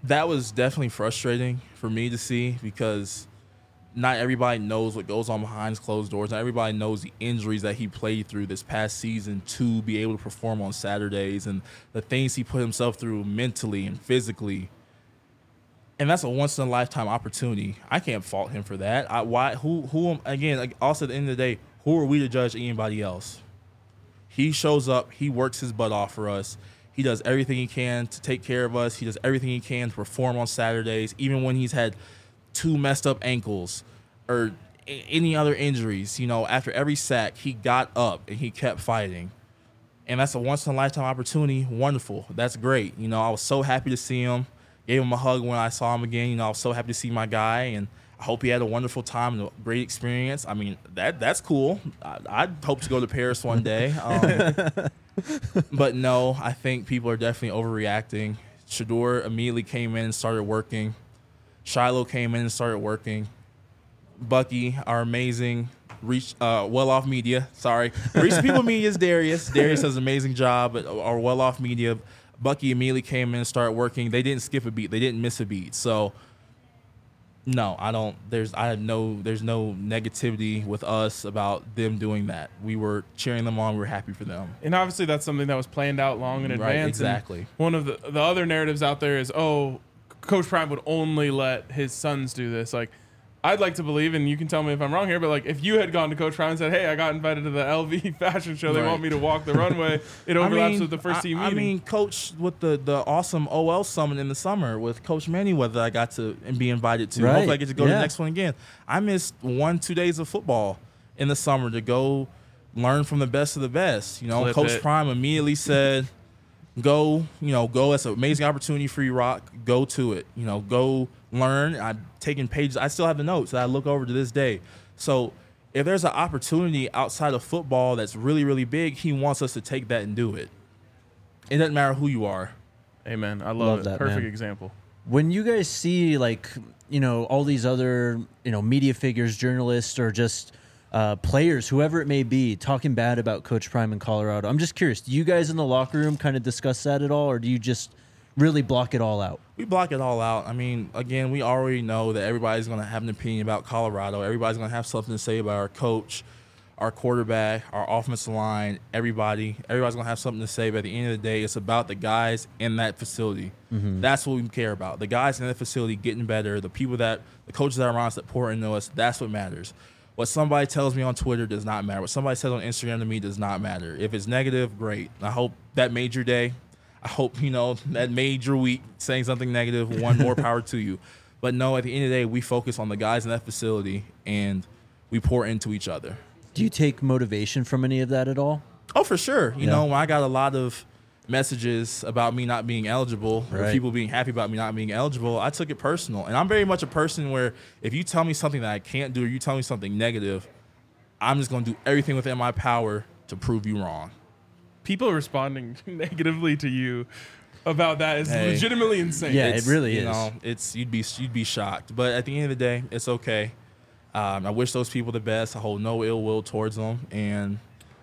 that was definitely frustrating for me to see because not everybody knows what goes on behind closed doors. Not everybody knows the injuries that he played through this past season to be able to perform on Saturdays and the things he put himself through mentally and physically. And that's a once in a lifetime opportunity. I can't fault him for that. I, why? Who? Who? Again, like also at the end of the day, who are we to judge anybody else? He shows up. He works his butt off for us. He does everything he can to take care of us. He does everything he can to perform on Saturdays, even when he's had two messed up ankles or a- any other injuries. You know, after every sack, he got up and he kept fighting. And that's a once in a lifetime opportunity. Wonderful. That's great. You know, I was so happy to see him. Gave him a hug when I saw him again. You know, I was so happy to see my guy, and I hope he had a wonderful time and a great experience. I mean, that that's cool. I, I'd hope to go to Paris one day. Um, but no, I think people are definitely overreacting. Shedeur immediately came in and started working. Shiloh came in and started working. Bucky, our amazing reach, uh, well-off media. Sorry, Reach People Media is Darius. Darius does an amazing job at our well-off media. Bucky immediately came in and started working. They didn't skip a beat. They didn't miss a beat. So, no, I don't. There's I have no. There's no negativity with us about them doing that. We were cheering them on. We were happy for them. And obviously, that's something that was planned out long in Right, advance. exactly. And one of the the other narratives out there is, oh, Coach Prime would only let his sons do this. Like, I'd like to believe, and you can tell me if I'm wrong here, but like if you had gone to Coach Prime and said, "Hey, I got invited to the L V fashion show. They Right. want me to walk the runway," it overlaps I mean, with the first I, team I meeting. mean, Coach with the, the awesome O L summit in the summer with Coach Manyweather, I got to and be invited to. Right. Hopefully, I get to go to Yeah. the next one again. I missed one, two days of football in the summer to go learn from the best of the best. You know, Clip Coach it. Prime immediately said, "Go, you know, go. That's an amazing opportunity for you, Rock. Go to it. You know, go learn." I'm taking pages. I still have the notes that I look over to this day. So if there's an opportunity outside of football that's really, really big, he wants us to take that and do it. It doesn't matter who you are. Amen. I love, Love it. that, Perfect man. example. When you guys see like, you know, all these other, you know, media figures, journalists, or just uh, players, whoever it may be, talking bad about Coach Prime in Colorado, I'm just curious, do you guys in the locker room kind of discuss that at all, or do you just really block it all out? We block it all out. I mean, again, we already know that everybody's going to have an opinion about Colorado. Everybody's going to have something to say about our coach, our quarterback, our offensive line, everybody. Everybody's going to have something to say, but at the end of the day, it's about the guys in that facility. Mm-hmm. That's what we care about. The guys in that facility getting better, the people that, the coaches that are around us that pour into us, that's what matters. What somebody tells me on Twitter does not matter. What somebody says on Instagram to me does not matter. If it's negative, great. I hope that made your day. I hope, you know, that made your week. Saying something negative, one, more power to you. But no, at the end of the day, we focus on the guys in that facility and we pour into each other. Do you take motivation from any of that at all? Oh, for sure. You Yeah. know, when I got a lot of messages about me not being eligible or Right. people being happy about me not being eligible, I took it personal. And I'm very much a person where if you tell me something that I can't do or you tell me something negative, I'm just going to do everything within my power to prove you wrong. People responding negatively to you about that is Hey. legitimately insane. Yeah, It's, it really you is. know, it's you'd be you'd be shocked, but at the end of the day, it's okay. Um, I wish those people the best. I hold no ill will towards them, and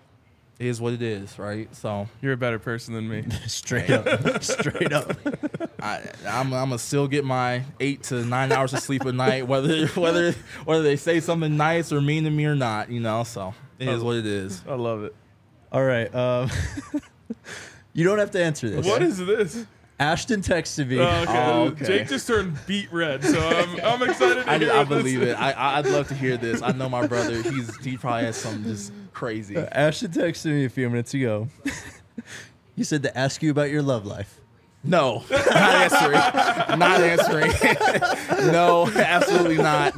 it is what it is, right? So You're a better person than me. Straight up. Straight up. I, I'm, I'm gonna still get my eight to nine hours of sleep a night, whether whether whether they say something nice or mean to me or not, you know. So it is what it is. I love it. All right. Um, you don't have to answer this. What is this? Ashton texted me. Oh, okay. Oh, okay. Jake just turned beet red, so I'm, I'm excited to I, hear I what this believe is. it. I, I- I'd love to hear this. I know my brother. He's he probably has something just crazy. Ashton texted me a few minutes ago. He said to ask you about your love life. No, not answering. Not answering. No, absolutely not.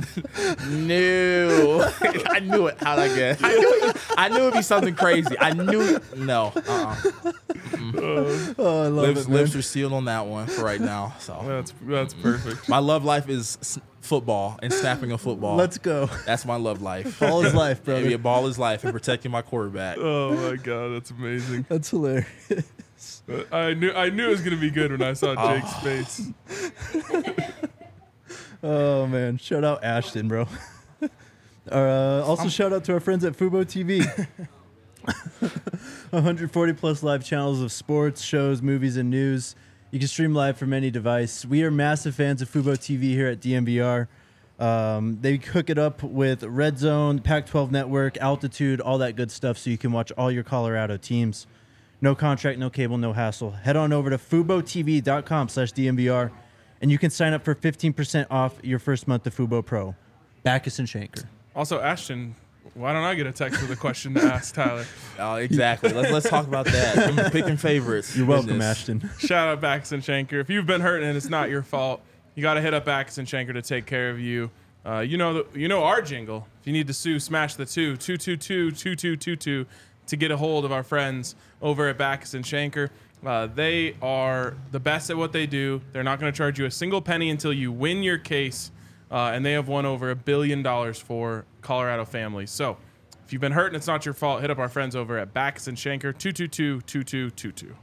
No. I knew it. How'd I get? I knew, it, I knew it'd be something crazy. I knew. No. Uh-uh. Oh, I love Lips, it, man. lips are sealed on that one for right now. So That's that's perfect. my love life is s- football and snapping a football. Let's go. That's my love life. Ball is life, Yeah, brother. ball is life and protecting my quarterback. Oh my god, that's amazing. That's hilarious. I knew I knew it was gonna be good when I saw Jake's face. Oh, man. Shout out Ashton, bro. Uh, also, shout out to our friends at Fubo T V. one hundred forty plus live channels of sports, shows, movies, and news. You can stream live from any device. We are massive fans of Fubo T V here at D M V R. Um, they hook it up with Red Zone, Pac twelve Network, Altitude, all that good stuff, so you can watch all your Colorado teams. No contract, no cable, no hassle. Head on over to FuboTV.com slash DMVR, and you can sign up for fifteen percent off your first month of Fubo Pro. Backus and Shanker. Also, Ashton, why don't I get a text with a question to ask Tyler? Oh, exactly. Let's let's talk about that. I'm picking favorites. You're welcome, Goodness. Ashton. Shout out Backus and Shanker. If you've been hurt and it's not your fault, you got to hit up Backus and Shanker to take care of you. Uh, you know the, you know our jingle. If you need to sue, smash the two, two two two two two two two to get a hold of our friends over at Backus and Shanker. Uh, they are the best at what they do. They're not going to charge you a single penny until you win your case, uh, and they have won over a billion dollars for Colorado families. So if you've been hurt and it's not your fault, hit up our friends over at Backus and Shanker, two two two two two two two.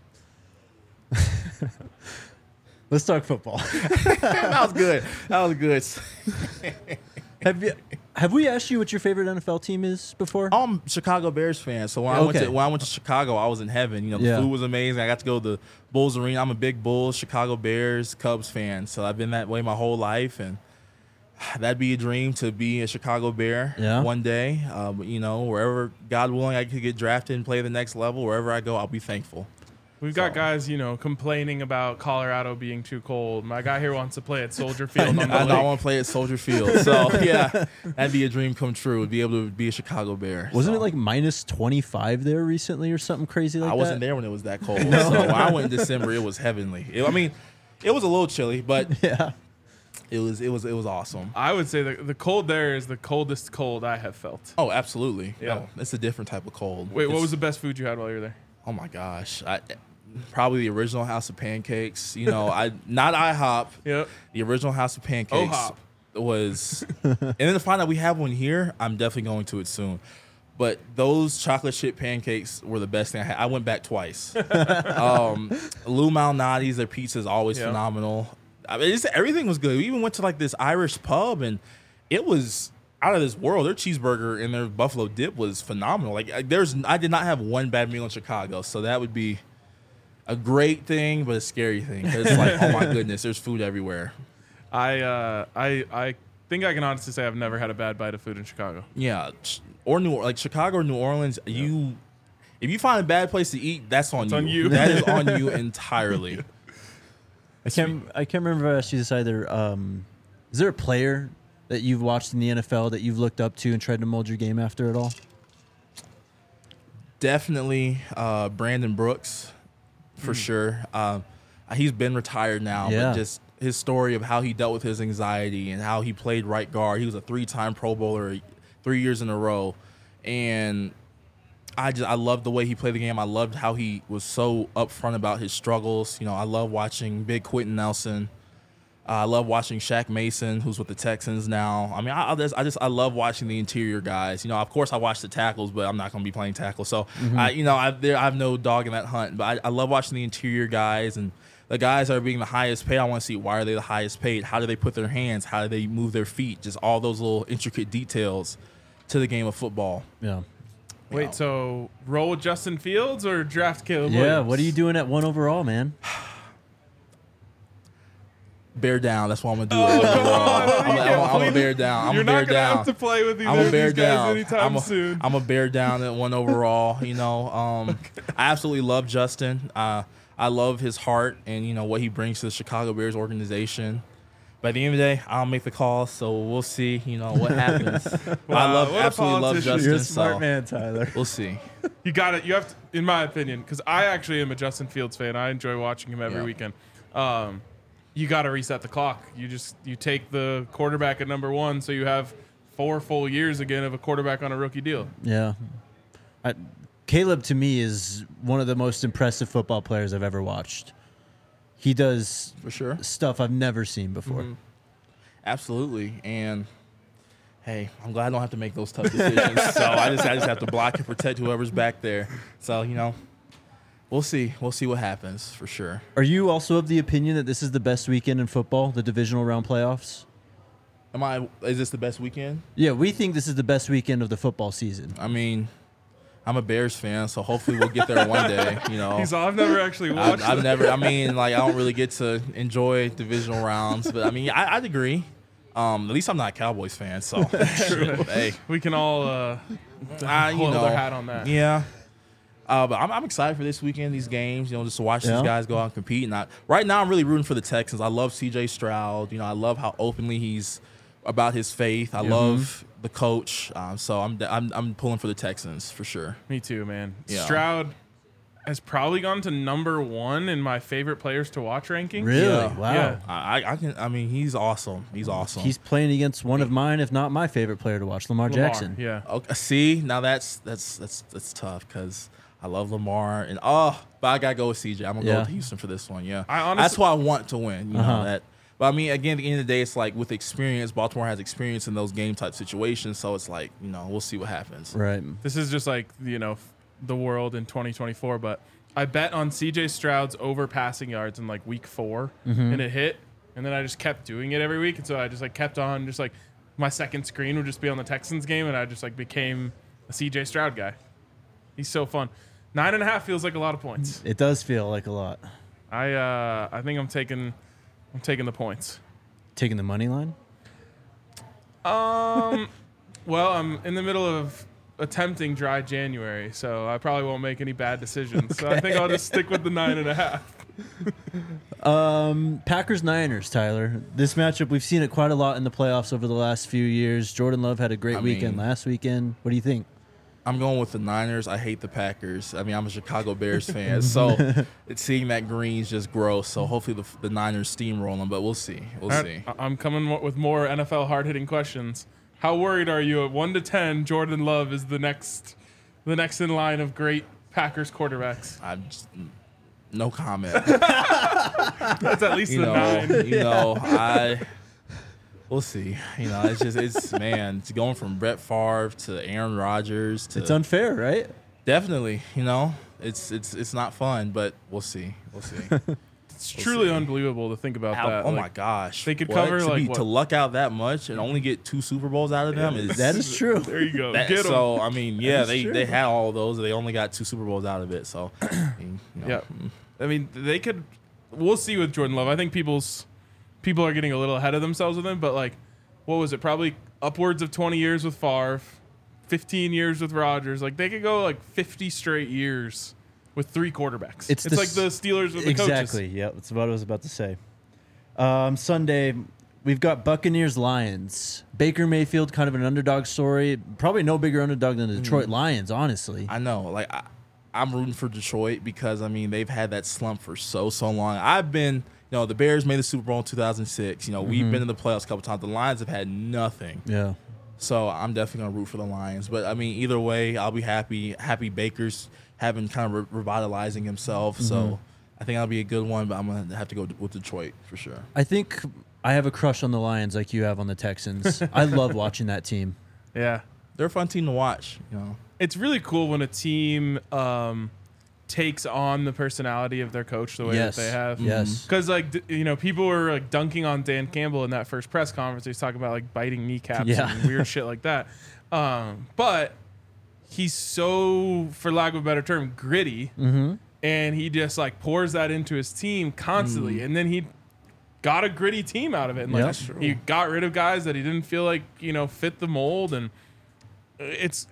Let's talk football. That was good. That was good. have you have we asked you what your favorite N F L team is before? I'm a Chicago Bears fan, so when I went Okay. to when I went to Chicago, I was in heaven. You know, the Yeah. food was amazing. I got to go to the Bulls Arena. I'm a big Bulls, Chicago Bears, Cubs fan, so I've been that way my whole life, and that'd be a dream to be a Chicago Bear Yeah. one day. Um, you know, wherever God willing, I could get drafted and play the next level. Wherever I go, I'll be thankful. We've got So- guys, you know, complaining about Colorado being too cold. My guy here wants to play at Soldier Field on the I, I lake. want to play at Soldier Field, so yeah, that'd be a dream come true. To be able to be a Chicago Bear. Wasn't so. it like minus twenty-five there recently or something crazy like I wasn't that? there when it was that cold. So when I went in December, it was heavenly. It- I mean, it was a little chilly, but Yeah. it was it was it was awesome. I would say the, the cold there is the coldest cold I have felt. Oh, absolutely. Yeah. No, it's a different type of cold. Wait, what It's- was the best food you had while you were there? Oh my gosh, I, probably the original House of Pancakes. You know, I not IHOP. Yep. The original House of Pancakes O-hop. was, and then to find out we have one here, I'm definitely going to it soon. But those chocolate chip pancakes were the best thing I had. I went back twice. um, Lou Malnati's, their pizza is always Yeah. phenomenal. I mean, it's, everything was good. We even went to like this Irish pub, and it was out of this world. Their cheeseburger and their buffalo dip was phenomenal. Like I- there's, I did not have one bad meal in Chicago, so that would be a great thing, but a scary thing. 'Cause it's like, oh my goodness, there's food everywhere. I uh, I I think I can honestly say I've never had a bad bite of food in Chicago. Yeah, ch- or New like Chicago or New Orleans. You, if you find a bad place to eat, that's on It's you. on you. That is on you entirely. I can't I can't remember if I asked you this either. Um, is there a player that you've watched in the N F L that you've looked up to and tried to mold your game after at all? Definitely uh, Brandon Brooks, for sure. Um, he's been retired now, Yeah. but just his story of how he dealt with his anxiety and how he played right guard. He was a three-time Pro Bowler, three years in a row, and I just I loved the way he played the game. I loved how he was so upfront about his struggles. You know, I love watching Big Quentin Nelson. Uh, I love watching Shaq Mason, who's with the Texans now. I mean, I, I just, I just I love watching the interior guys. You know, of course I watch the tackles, but I'm not going to be playing tackle. So, I, you know, I, there, I have no dog in that hunt. But I, I love watching the interior guys and the guys that are being the highest paid. I want to see why are they the highest paid? How do they put their hands? How do they move their feet? Just all those little intricate details to the game of football. Yeah. Wait, so roll with Justin Fields or draft Caleb Yeah. Williams? What are you doing at one overall, man? Bear down. That's what I'm gonna do. Oh, come on. I'm, You I'm, can't I'm, I'm a please- bear down. I'm You're a bear not gonna down. have to play with either I'm a of bear these guys down. anytime I'm a, soon. I'm a bear down at one overall. You know, um, I absolutely love Justin. Uh, I love his heart and you know what he brings to the Chicago Bears organization. By the end of the day, I'll make the call, so we'll see. You know what happens. I Wow, love, what a absolutely love politician. Justin. You're a smart so man, Tyler. we'll see. You got it. You have to, in my opinion, because I actually am a Justin Fields fan. I enjoy watching him every Yeah. weekend. Um, you got to reset the clock. You just you take the quarterback at number one, so you have four full years again of a quarterback on a rookie deal. Yeah. I, Caleb, to me, is one of the most impressive football players I've ever watched. He does For sure. stuff I've never seen before. Mhm. Absolutely. And hey, I'm glad I don't have to make those tough decisions. so I just I just have to block and protect whoever's back there. So, you know, we'll see. We'll see what happens for sure. Are you also of the opinion that this is the best weekend in football, the divisional round playoffs? Am I is this the best weekend? Yeah, we think this is the best weekend of the football season. I mean, I'm a Bears fan, so hopefully we'll get there one day. You know, He's all, I've never actually I've, watched. I've it. never. I mean, like I don't really get to enjoy divisional rounds, but I mean, I, I'd agree. Um, at least I'm not a Cowboys fan, so hey, We can all uh, I, you hold know, their hat on that. yeah. Uh, but I'm, I'm excited for this weekend, these games, you know, just to watch Yeah. these guys go out and compete. And I, right now, I'm really rooting for the Texans. I love C J Stroud. You know, I love how openly he's about his faith. I Yeah. love the coach. Um, so I'm, I'm I'm pulling for the Texans for sure. Me too, man. Yeah. Stroud has probably gone to number one in my favorite players to watch rankings. Really? Yeah. Wow. Yeah. I, I can. I mean, he's awesome. He's awesome. He's playing against one of mine, if not my favorite player to watch, Lamar, Lamar, Jackson. Yeah. okay, see, now that's that's that's that's tough because I love Lamar and oh, but I gotta go with C J. I'm gonna Yeah. go with Houston for this one. Yeah, I honestly- that's who I want to win. You Uh-huh. know that. But I mean, again, at the end of the day, it's like with experience, Baltimore has experience in those game type situations. So it's like, you know, we'll see what happens. Right. This is just like, you know, f- the world in twenty twenty-four, but I bet on C J Stroud's over passing yards in like week four Mm-hmm. and it hit. And then I just kept doing it every week. And so I just like kept on, just like my second screen would just be on the Texans game. And I just like became a C J Stroud guy. He's so fun. Nine and a half feels like a lot of points. It does feel like a lot. I uh, I think I'm taking I'm taking the points. Taking the money line? Um, well, I'm in the middle of attempting dry January, so I probably won't make any bad decisions. So I think I'll just stick with the nine and a half. Um, Packers Niners, Tyler. This matchup, we've seen it quite a lot in the playoffs over the last few years. Jordan Love had a great I weekend mean- last weekend. What do you think? I'm going with the Niners. I hate the Packers. I mean, I'm a Chicago Bears fan, so it's seeing that green's just gross. So hopefully the, the Niners steamroll them, but we'll see. We'll All see. right, I- I'm coming mo- with more N F L hard-hitting questions. How worried are you at one to ten? Jordan Love is the next, the next in line of great Packers quarterbacks. I'm just, no comment. That's at least you the know, nine. you know, I we'll see. You know, it's just it's man, it's going from Brett Favre to Aaron Rodgers to It's unfair, right? definitely. You know, it's it's it's not fun, but we'll see. We'll see. It's truly unbelievable to think about How- that. oh Like, my gosh, they could What? cover, to like, be- what? to luck out that much and only get two Super Bowls out of them. Is, That is true. There you go. that- Get 'em. so I mean, yeah, is they true. they had all those. They only got two Super Bowls out of it. So I mean, you know, Yeah. I mean, they could. We'll see with Jordan Love. I think people's people are getting a little ahead of themselves with him. But like, what was it? Probably upwards of twenty years with Favre, fifteen years with Rodgers. Like they could go like fifty straight years with three quarterbacks. It's It's, the like s- the Steelers with the Exactly. coaches. Yeah, that's what I was about to say. Um, Sunday, we've got Buccaneers Lions. Baker Mayfield, kind of an underdog story. Probably no bigger underdog than the Detroit Lions, honestly. I know. Like I, I'm rooting for Detroit because I mean they've had that slump for so so long. I've been, you know, the Bears made the Super Bowl in two thousand six. You know, we've been in the playoffs a couple times. The Lions have had nothing. Yeah. So I'm definitely gonna root for the Lions. But I mean, either way, I'll be happy. Happy Baker's having kind of re- revitalizing himself. So I think that'll be a good one. But I'm gonna have to go with Detroit for sure. I think I have a crush on the Lions like you have on the Texans. I love watching that team. Yeah. They're a fun team to watch. You know. It's really cool when a team um, takes on the personality of their coach the way Yes. that they have. Yes. Because like d- you know, people were like dunking on Dan Campbell in that first press conference. He was talking about like biting kneecaps Yeah. and weird shit like that. Um, but he's so, for lack of a better term, gritty, Mm-hmm. and he just like pours that into his team constantly, and then he got a gritty team out of it. And like Yep. That's he got rid of guys that he didn't feel like you know fit the mold, and it's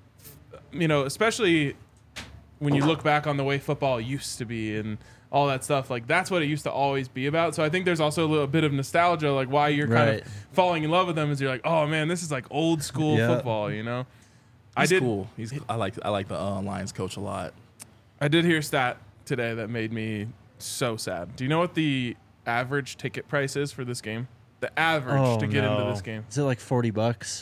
you know especially when you look back on the way football used to be and all that stuff, like that's what it used to always be about. So I think there's also a little bit of nostalgia, like why you're kind Right. of falling in love with them is you're like, oh man, this is like old school Yeah. football, you know. I He's did cool. He's I like I like the uh, Lions coach a lot. I did hear a stat today that made me so sad. Do you know what the average ticket price is for this game? The average Oh, to get no. into this game. Is it like forty bucks?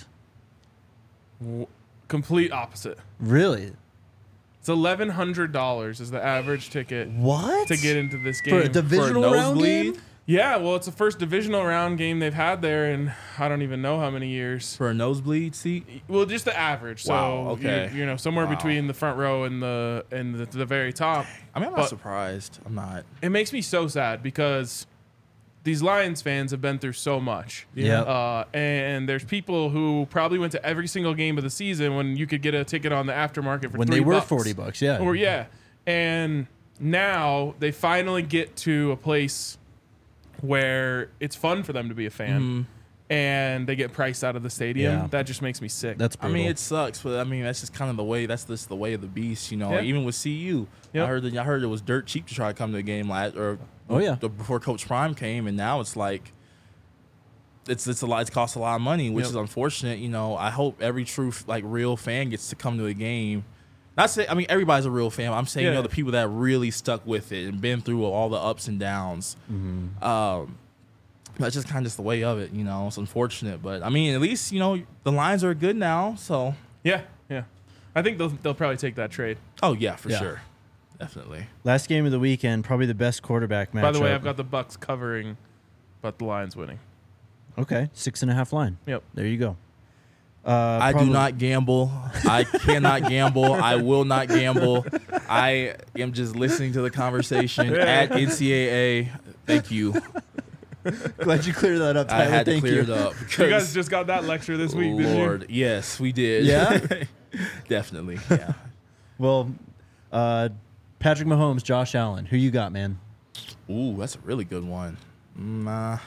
W- complete opposite. Really? It's eleven hundred dollars is the average ticket What? to get into this for game. a divisional round nosebleed? game? yeah, well, it's the first divisional round game they've had there in I don't even know how many years. For a nosebleed seat. Well, just the average. So Wow, okay. you, you know, somewhere Wow. between the front row and the and the, the very top. I mean, I'm not But- surprised. I'm not. It makes me so sad because these Lions fans have been through so much. Yeah. Uh, and there's people who probably went to every single game of the season when you could get a ticket on the aftermarket for When three they were bucks. forty bucks, yeah. Or yeah. And now they finally get to a place where it's fun for them to be a fan. Mm-hmm. And they get priced out of the stadium. Yeah. That just makes me sick. That's I brutal. mean, it sucks, but I mean, that's just kind of the way. That's just the way of the beast, you know. Yeah. Even with C U, Yep. I heard that I heard it was dirt cheap to try to come to a game last, or Oh, yeah. the- before Coach Prime came, and now it's like it's it's a lot. It costs a lot of money, which Yep. is unfortunate. You know, I hope every true like real fan gets to come to a game. Not say I mean everybody's a real fan. I'm saying you Yeah. know the people that really stuck with it and been through all the ups and downs. Mm-hmm. Um, that's just kind of just the way of it. You know, it's unfortunate, but I mean, at least you know the Lions are good now. So, yeah, yeah. I think they'll they'll probably take that trade. oh yeah, for Yeah. sure, definitely. Last game of the weekend, probably the best quarterback matchup. By the way, I've got the Bucks covering, but the Lions winning. Okay, six and a half line. Yep. There you go. Uh, I probably- do not gamble. I cannot gamble. I will not gamble. I am just listening to the conversation at N C double A. Thank you. Glad you cleared that up, Tyler. I had to Thank clear you. it up. You because- guys just got that lecture this week, didn't Lord, yes, we did. Yeah? Definitely. Yeah. Well, uh, Patrick Mahomes, Josh Allen. Who you got, man? Ooh, that's a really good one. Mm, uh,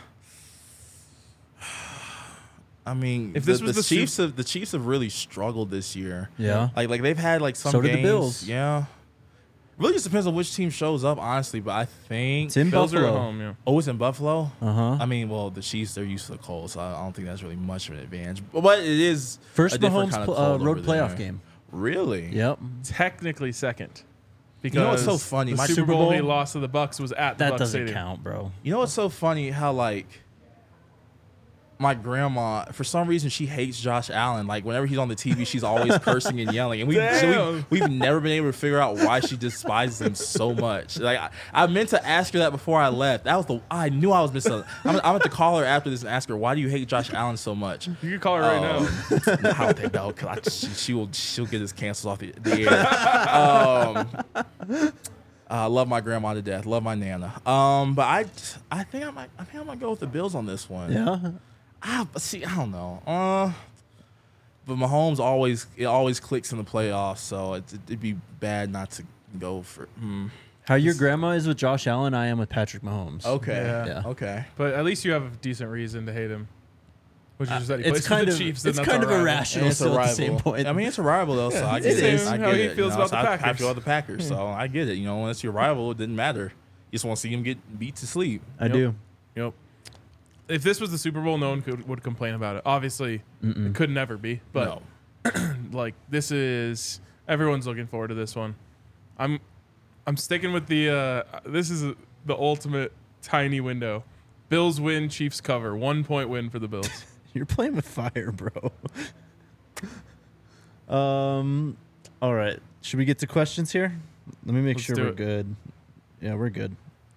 I mean, If this the, was the the Chiefs, Sup- have the Chiefs have really struggled this year. Yeah. Like, like they've had like some So did the games. Bills. Yeah. Really just depends on which team shows up, honestly. But I think It's in you? Bills are at Buffalo. home, yeah. oh, it's in Buffalo. Uh huh. I mean, well, the Chiefs they're used to the cold, so I don't think that's really much of an advantage. But, but it is First a different Mahomes kind of pl- uh, cold road over playoff there. game. Really? Yep. Technically second. Because know what's so funny? The My Super Super Bowl, Bowl- he lost to the Bucks was at the That Bucks doesn't Stadium. count, bro. You know what's so funny? How like my grandma, for some reason, she hates Josh Allen. Like whenever he's on the T V, she's always cursing and yelling, and we, so Damn. we we've never been able to figure out why she despises him so much. Like I, I meant to ask her that before I left. That was the I knew I was missing. I'm, I'm going to call her after this and ask her why do you hate Josh Allen so much. You can call her right Um, now. I don't think no, because she, she will she'll get his cancels off the, the air. Um, I love my grandma to death. Love my nana. Um, but I I think I might I think I might go with the Bills on this one. Yeah. Ah, but see, I don't know. Uh, but Mahomes always it always clicks in the playoffs, so it, it'd be bad not to go for. Hmm. How your grandma is with Josh Allen, I am with Patrick Mahomes. Okay. Yeah. Yeah. Okay. But at least you have a decent reason to hate him. Which is just that he Uh, It's plays for kind the of Chiefs. it's and that's kind our of rival. irrational And it's a still at the rival. same point. I mean, it's a rival though, so I it get it. is. I How get he it. feels you know, about so the I, I Packers. feel about the Packers, so I get it. You know, unless your rival, it didn't matter. You just want to see him get beat to sleep. I Yep. do. Yep. If this was the Super Bowl, no one could, would complain about it. Obviously, it could never be. But no. like this is everyone's looking forward to this one. I'm I'm sticking with the uh, this is the ultimate tiny window. Bills win, Chiefs cover. One point win for the Bills. You're playing with fire, bro. um. All right. Should we get to questions here? Let me make Let's sure do we're it. good. Yeah, we're good.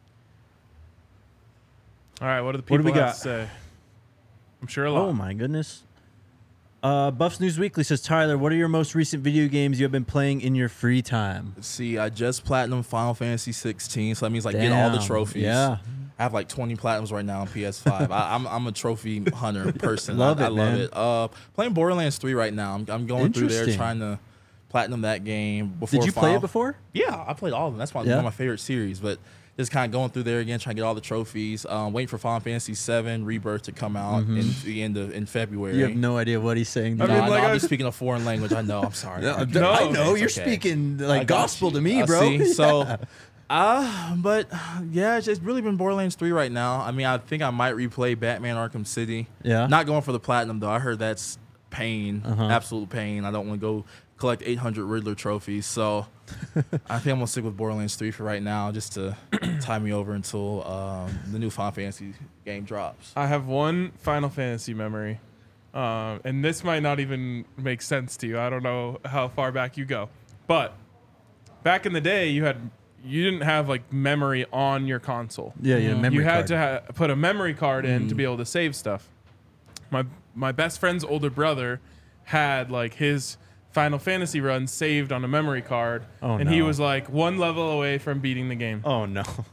All right, what do the What people do we have got? to say? I'm sure a lot. Oh my goodness. Uh, Buffs News Weekly says, Tyler, what are your most recent video games you have been playing in your free time? See, I just platinum Final Fantasy sixteen, so that means like get all the Damn. trophies. Yeah. I have like twenty platinums right now on P S five. I, I'm I'm a trophy hunter person. Love I, it, I love man. it. Uh, playing Borderlands three right now. I'm, I'm going through there Interesting. trying to platinum that game. Before Did you play Final- it before? Yeah, I played all of them. That's my, Yeah? one of my favorite series. But just kind of going through there again, trying to get all the trophies. Um, waiting for Final Fantasy seven Rebirth to come out in the end of in February. You have no idea what he's saying. I dude. No, mean, I know, like, I'll I- be speaking a foreign language. I know. I'm sorry. No, I, No. I know. You're It's okay. speaking I like got gospel you. to me, Uh, bro. see? So, uh, but yeah, it's just really been Borderlands three right now. I mean, I think I might replay Batman Arkham City. Yeah. Not going for the platinum though. I heard that's pain, Uh-huh. absolute pain. I don't want to go collect eight hundred Riddler trophies. So I think I'm gonna stick with Borderlands three for right now, just to tie me over until um, the new Final Fantasy game drops. I have one Final Fantasy memory, um, and this might not even make sense to you. I don't know how far back you go, but back in the day, you had you didn't have like memory on your console. Yeah, yeah, memory you had card. to ha- put a memory card in to be able to save stuff. My my best friend's older brother had like his Final Fantasy run saved on a memory card, Oh, and he no. was like one level away from beating the game. Oh, no.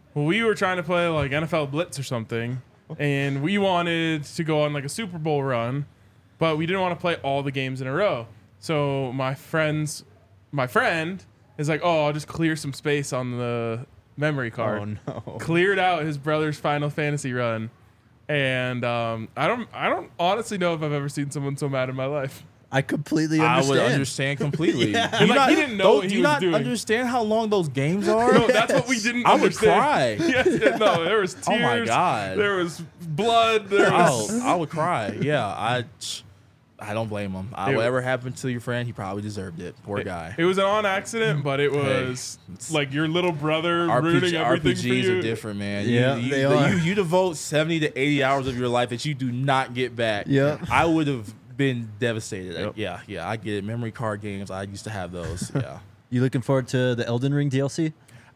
Well, we were trying to play like N F L Blitz or something, and we wanted to go on like a Super Bowl run, but we didn't want to play all the games in a row. So my friends, my friend is like, "Oh, I'll just clear some space on the memory card." Oh no. Cleared out his brother's Final Fantasy run, and um, I don't, I don't honestly know if I've ever seen someone so mad in my life. I completely I understand. would understand completely. Yeah. Do you Like, not, he didn't know what do he you was not doing. understand how long those games are? No, that's what we didn't I would understand. cry. Yes, yeah, no, there was tears. Oh my God. There was blood. There was. Oh, I would cry. Yeah, I, I don't blame him. I, It- whatever happened to your friend, he probably deserved it. Poor guy. It was an on accident, but it was it's- like your little brother R P G, ruining everything for R P Gs you. are different, man. Yeah, you, you, they the- are. You, you devote seventy to eighty hours of your life that you do not get back. Yep. I would have been devastated. Yep. Yeah, yeah, I get it. Memory card games, I used to have those. Yeah. You looking forward to the Elden Ring D L C?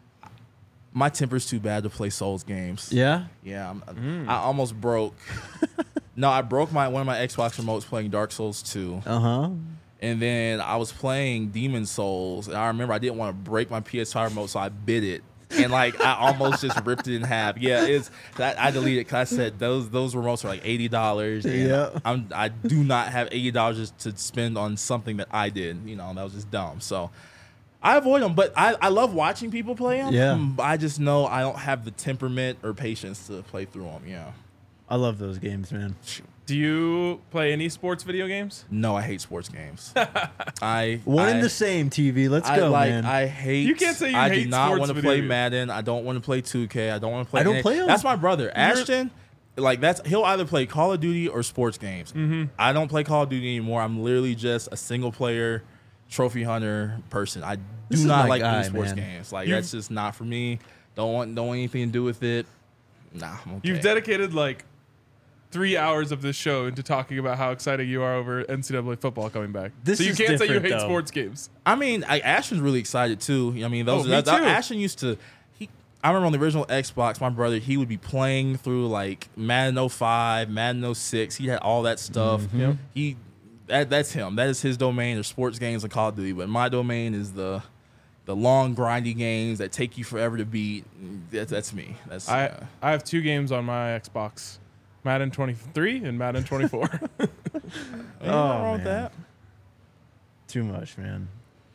My temper's too bad to play Souls games. Yeah. Yeah, I'm, Mm. I almost broke. No, I broke my one of my Xbox remotes playing Dark Souls two. Uh huh. And then I was playing Demon Souls, and I remember I didn't want to break my P S five remote, so I bit it, and like I almost just ripped it in half. Yeah, it's I, I deleted it because I said those those remotes are like eighty dollars. Yeah. I'm I do not have eighty dollars to spend on something that I did. You know, that was just dumb. So I avoid them, but I I love watching people play them. Yeah. I just know I don't have the temperament or patience to play through them. Yeah. I love those games, man. Do you play any sports video games? No, I hate sports games. I One I, and the same, T V. Let's I go, like. man. I hate. You can't say you I hate do not sports want to video play games. Madden. I don't want to play two K. I don't want to play. I don't any- play 'em. That's my brother, Ashton. Like that's he'll either play Call of Duty or sports games. Mm-hmm. I don't play Call of Duty anymore. I'm literally just a single player trophy hunter person. I do This is not my like guy, doing sports man. games. Like You've- that's just not for me. Don't want don't want anything to do with it. Nah, I'm okay. You've dedicated like three hours of this show into talking about how excited you are over N C double A football coming back. This so you is can't say you different, hate though. sports games. I mean, I, Ashton's really excited too. I mean, those Oh, me that, that- too. Ashton used to. He, I remember on the original Xbox, my brother he would be playing through like Madden oh five, Madden oh six. He had all that stuff. Mm-hmm. Yep. He that that's him. That is his domain. There's sports games and Call of Duty, but my domain is the the long grindy games that take you forever to beat. That's that's me. That's I uh, I have two games on my Xbox, Madden twenty-three and Madden twenty-four. ain't nothing wrong with man. that. Too much, man.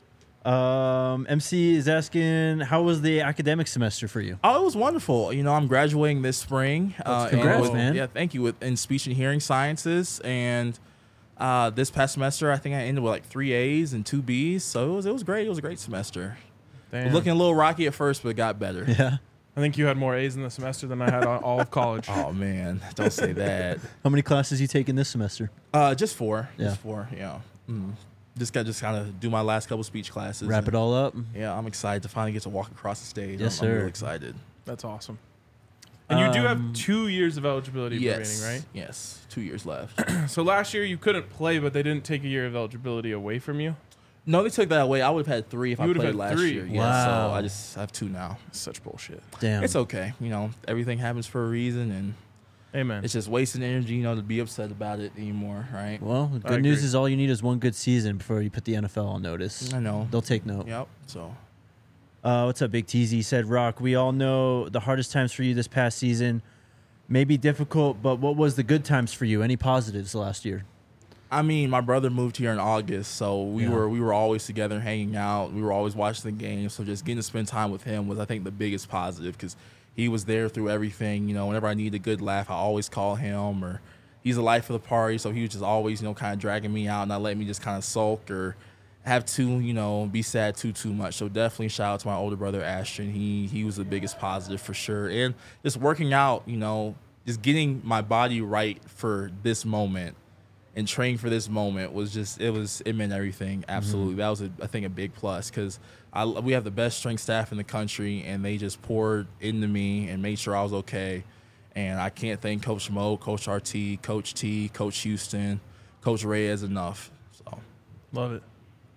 Um, M C is asking, how was the academic semester for you? Oh, it was wonderful. You know, I'm graduating this spring. Uh, and congrats, with- man. Yeah, thank you. With in speech and hearing sciences, and uh, this past semester, I think I ended with like three A's and two B's. So it was it was great. It was a great semester. Damn. Looking a little rocky at first, but it got better. Yeah. I think you had more A's in the semester than I had on all of college. Oh man, don't say that. How many classes you taking this semester? Uh, just four. Yeah. Just four. Yeah. Mm. Just got just kind of do my last couple speech classes. Wrap and- it all up. Yeah, I'm excited to finally get to walk across the stage. Yes, I'm, I'm sir. really excited. That's awesome. And you do Um, have two years of eligibility Yes. remaining, Yes. Two years left. right? So last year you couldn't play, but they didn't take a year of eligibility away from you. No, they took that away. I would have had three if You I would've played had last three. year. Yeah, Wow. so I just have two now. Such bullshit. Damn. It's okay. You know, everything happens for a reason, and Amen. it's just wasting energy, you know, to be upset about it anymore, right? Well, the I good news agree. is all you need is one good season before you put the N F L on notice. I know. They'll take note. Yep. So, Uh, what's up, Big T Z? Said, Rock, we all know the hardest times for you this past season may be difficult, but what was the good times for you? Any positives last year? I mean, my brother moved here in August, so we Yeah. were we were always together, hanging out. We were always watching the games. So just getting to spend time with him was, I think, the biggest positive because he was there through everything. You know, whenever I needed a good laugh, I always call him, or he's the life of the party. So he was just always, you know, kind of dragging me out, not letting me just kind of sulk or have to, you know, be sad too too much. So definitely shout out to my older brother Ashton. He he was the biggest positive for sure, and just working out, you know, just getting my body right for this moment and training for this moment was just it was it meant everything. Absolutely, that was a, I think a big plus because I we have the best strength staff in the country, and they just poured into me and made sure I was okay. And I can't thank Coach Mo, Coach R T, Coach T, Coach Houston, Coach Reyes enough. So Love it.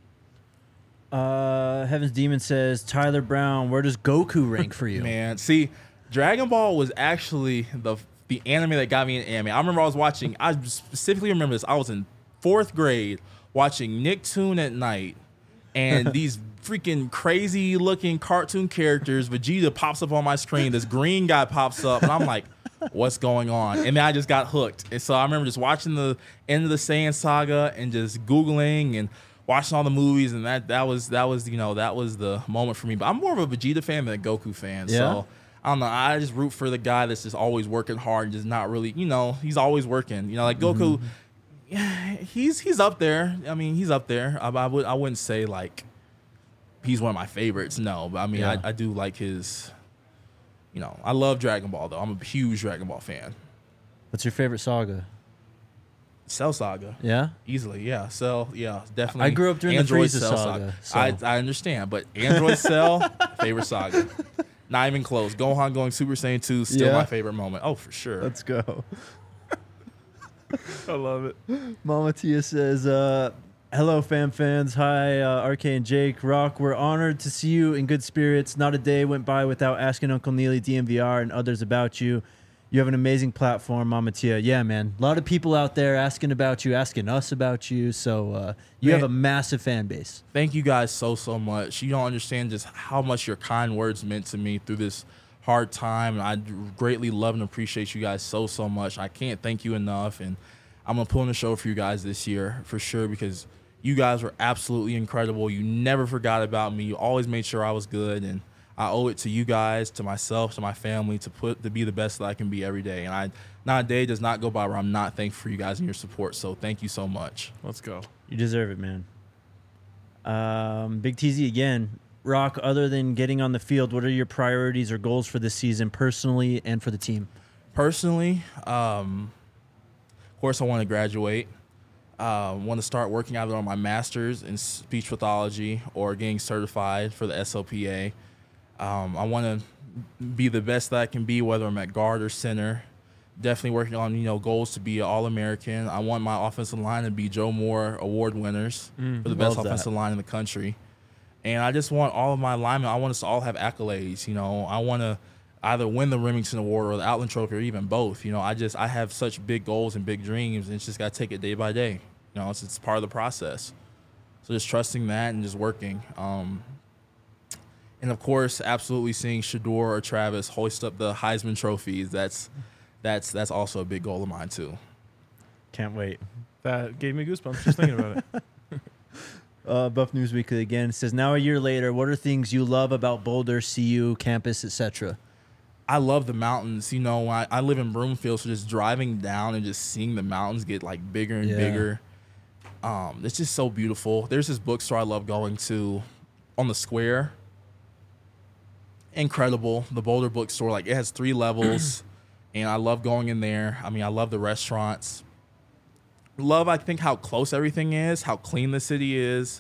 Uh, Heaven's Demon says, Tyler Brown, where does Goku rank for you? man, see, Dragon Ball was actually the the anime that got me in anime. I remember I was watching. I specifically remember this. I was in fourth grade watching Nicktoon at night, and these freaking crazy looking cartoon characters. Vegeta pops up on my screen. This green guy pops up, and I'm like, what's going on? And then I just got hooked. And so I remember just watching the end of the Saiyan saga and just Googling and watching all the movies, and that that was that was you know that was the moment for me. But I'm more of a Vegeta fan than a Goku fan. Yeah. So I don't know. I just root for the guy that's just always working hard and just not really, you know, he's always working. You know, like Goku, Mm-hmm. yeah, he's he's up there. I mean, he's up there. I, I would I wouldn't say like he's one of my favorites. No, but I mean, Yeah. I, I do like his. You know, I love Dragon Ball though. I'm a huge Dragon Ball fan. What's your favorite saga? Cell Saga. Yeah. Easily, yeah. Cell, yeah, definitely. I grew up during the Android Frieza Cell saga, so- I, I understand, but Android Cell, favorite saga. Not even close. Gohan going Super Saiyan two, still Yeah. my favorite moment. Oh, for sure. Let's go. I love it. Mama Tia says, uh, hello, fam fans. Hi, uh, R K and Jake. Rock, we're honored to see you in good spirits. Not a day went by without asking Uncle Neely, D M V R, and others about you. You have an amazing platform, Mama Tia. Yeah, man. A lot of people out there asking about you, asking us about you. So uh, you Man. have a massive fan base. Thank you guys so, so much. You don't understand just how much your kind words meant to me through this hard time. And I greatly love and appreciate you guys so, so much. I can't thank you enough. And I'm going to put on a show for you guys this year for sure, because you guys were absolutely incredible. You never forgot about me. You always made sure I was good. And I owe it to you guys, to myself, to my family, to put to be the best that I can be every day. And I not a day does not go by where I'm not thankful for you guys and your support. So thank you so much. Let's go. You deserve it, man. Um, Big T Z again. Rock, other than getting on the field, what are your priorities or goals for this season personally and for the team? Personally, um, of course, I want to graduate. I uh, want to start working either on my master's in speech pathology or getting certified for the S L P A. Um, I want to be the best that I can be, whether I'm at guard or center. Definitely working on, you know, goals to be an All-American. I want my offensive line to be Joe Moore Award winners Mm, for the best love that. offensive line in the country. And I just want all of my linemen, I want us to all have accolades. You know, I want to either win the Remington Award or the Outland Trophy or even both. You know, I just, I have such big goals and big dreams, and it's just got to take it day by day. You know, it's, it's part of the process. So just trusting that and just working. Um, and, of course, absolutely seeing Shador or Travis hoist up the Heisman trophies. That's that's that's also a big goal of mine, too. Can't wait. That gave me goosebumps just thinking about it. Uh, Buff News Weekly again says, now a year later, what are things you love about Boulder, C U, campus, et cetera? I love the mountains. You know, I, I live in Broomfield, so just driving down and just seeing the mountains get, like, bigger and Yeah. bigger. Um, it's just so beautiful. There's this bookstore I love going to on the square. Incredible. The Boulder bookstore, like, it has three levels, and I love going in there. I mean, I love the restaurants. Love, I think, how close everything is, how clean the city is.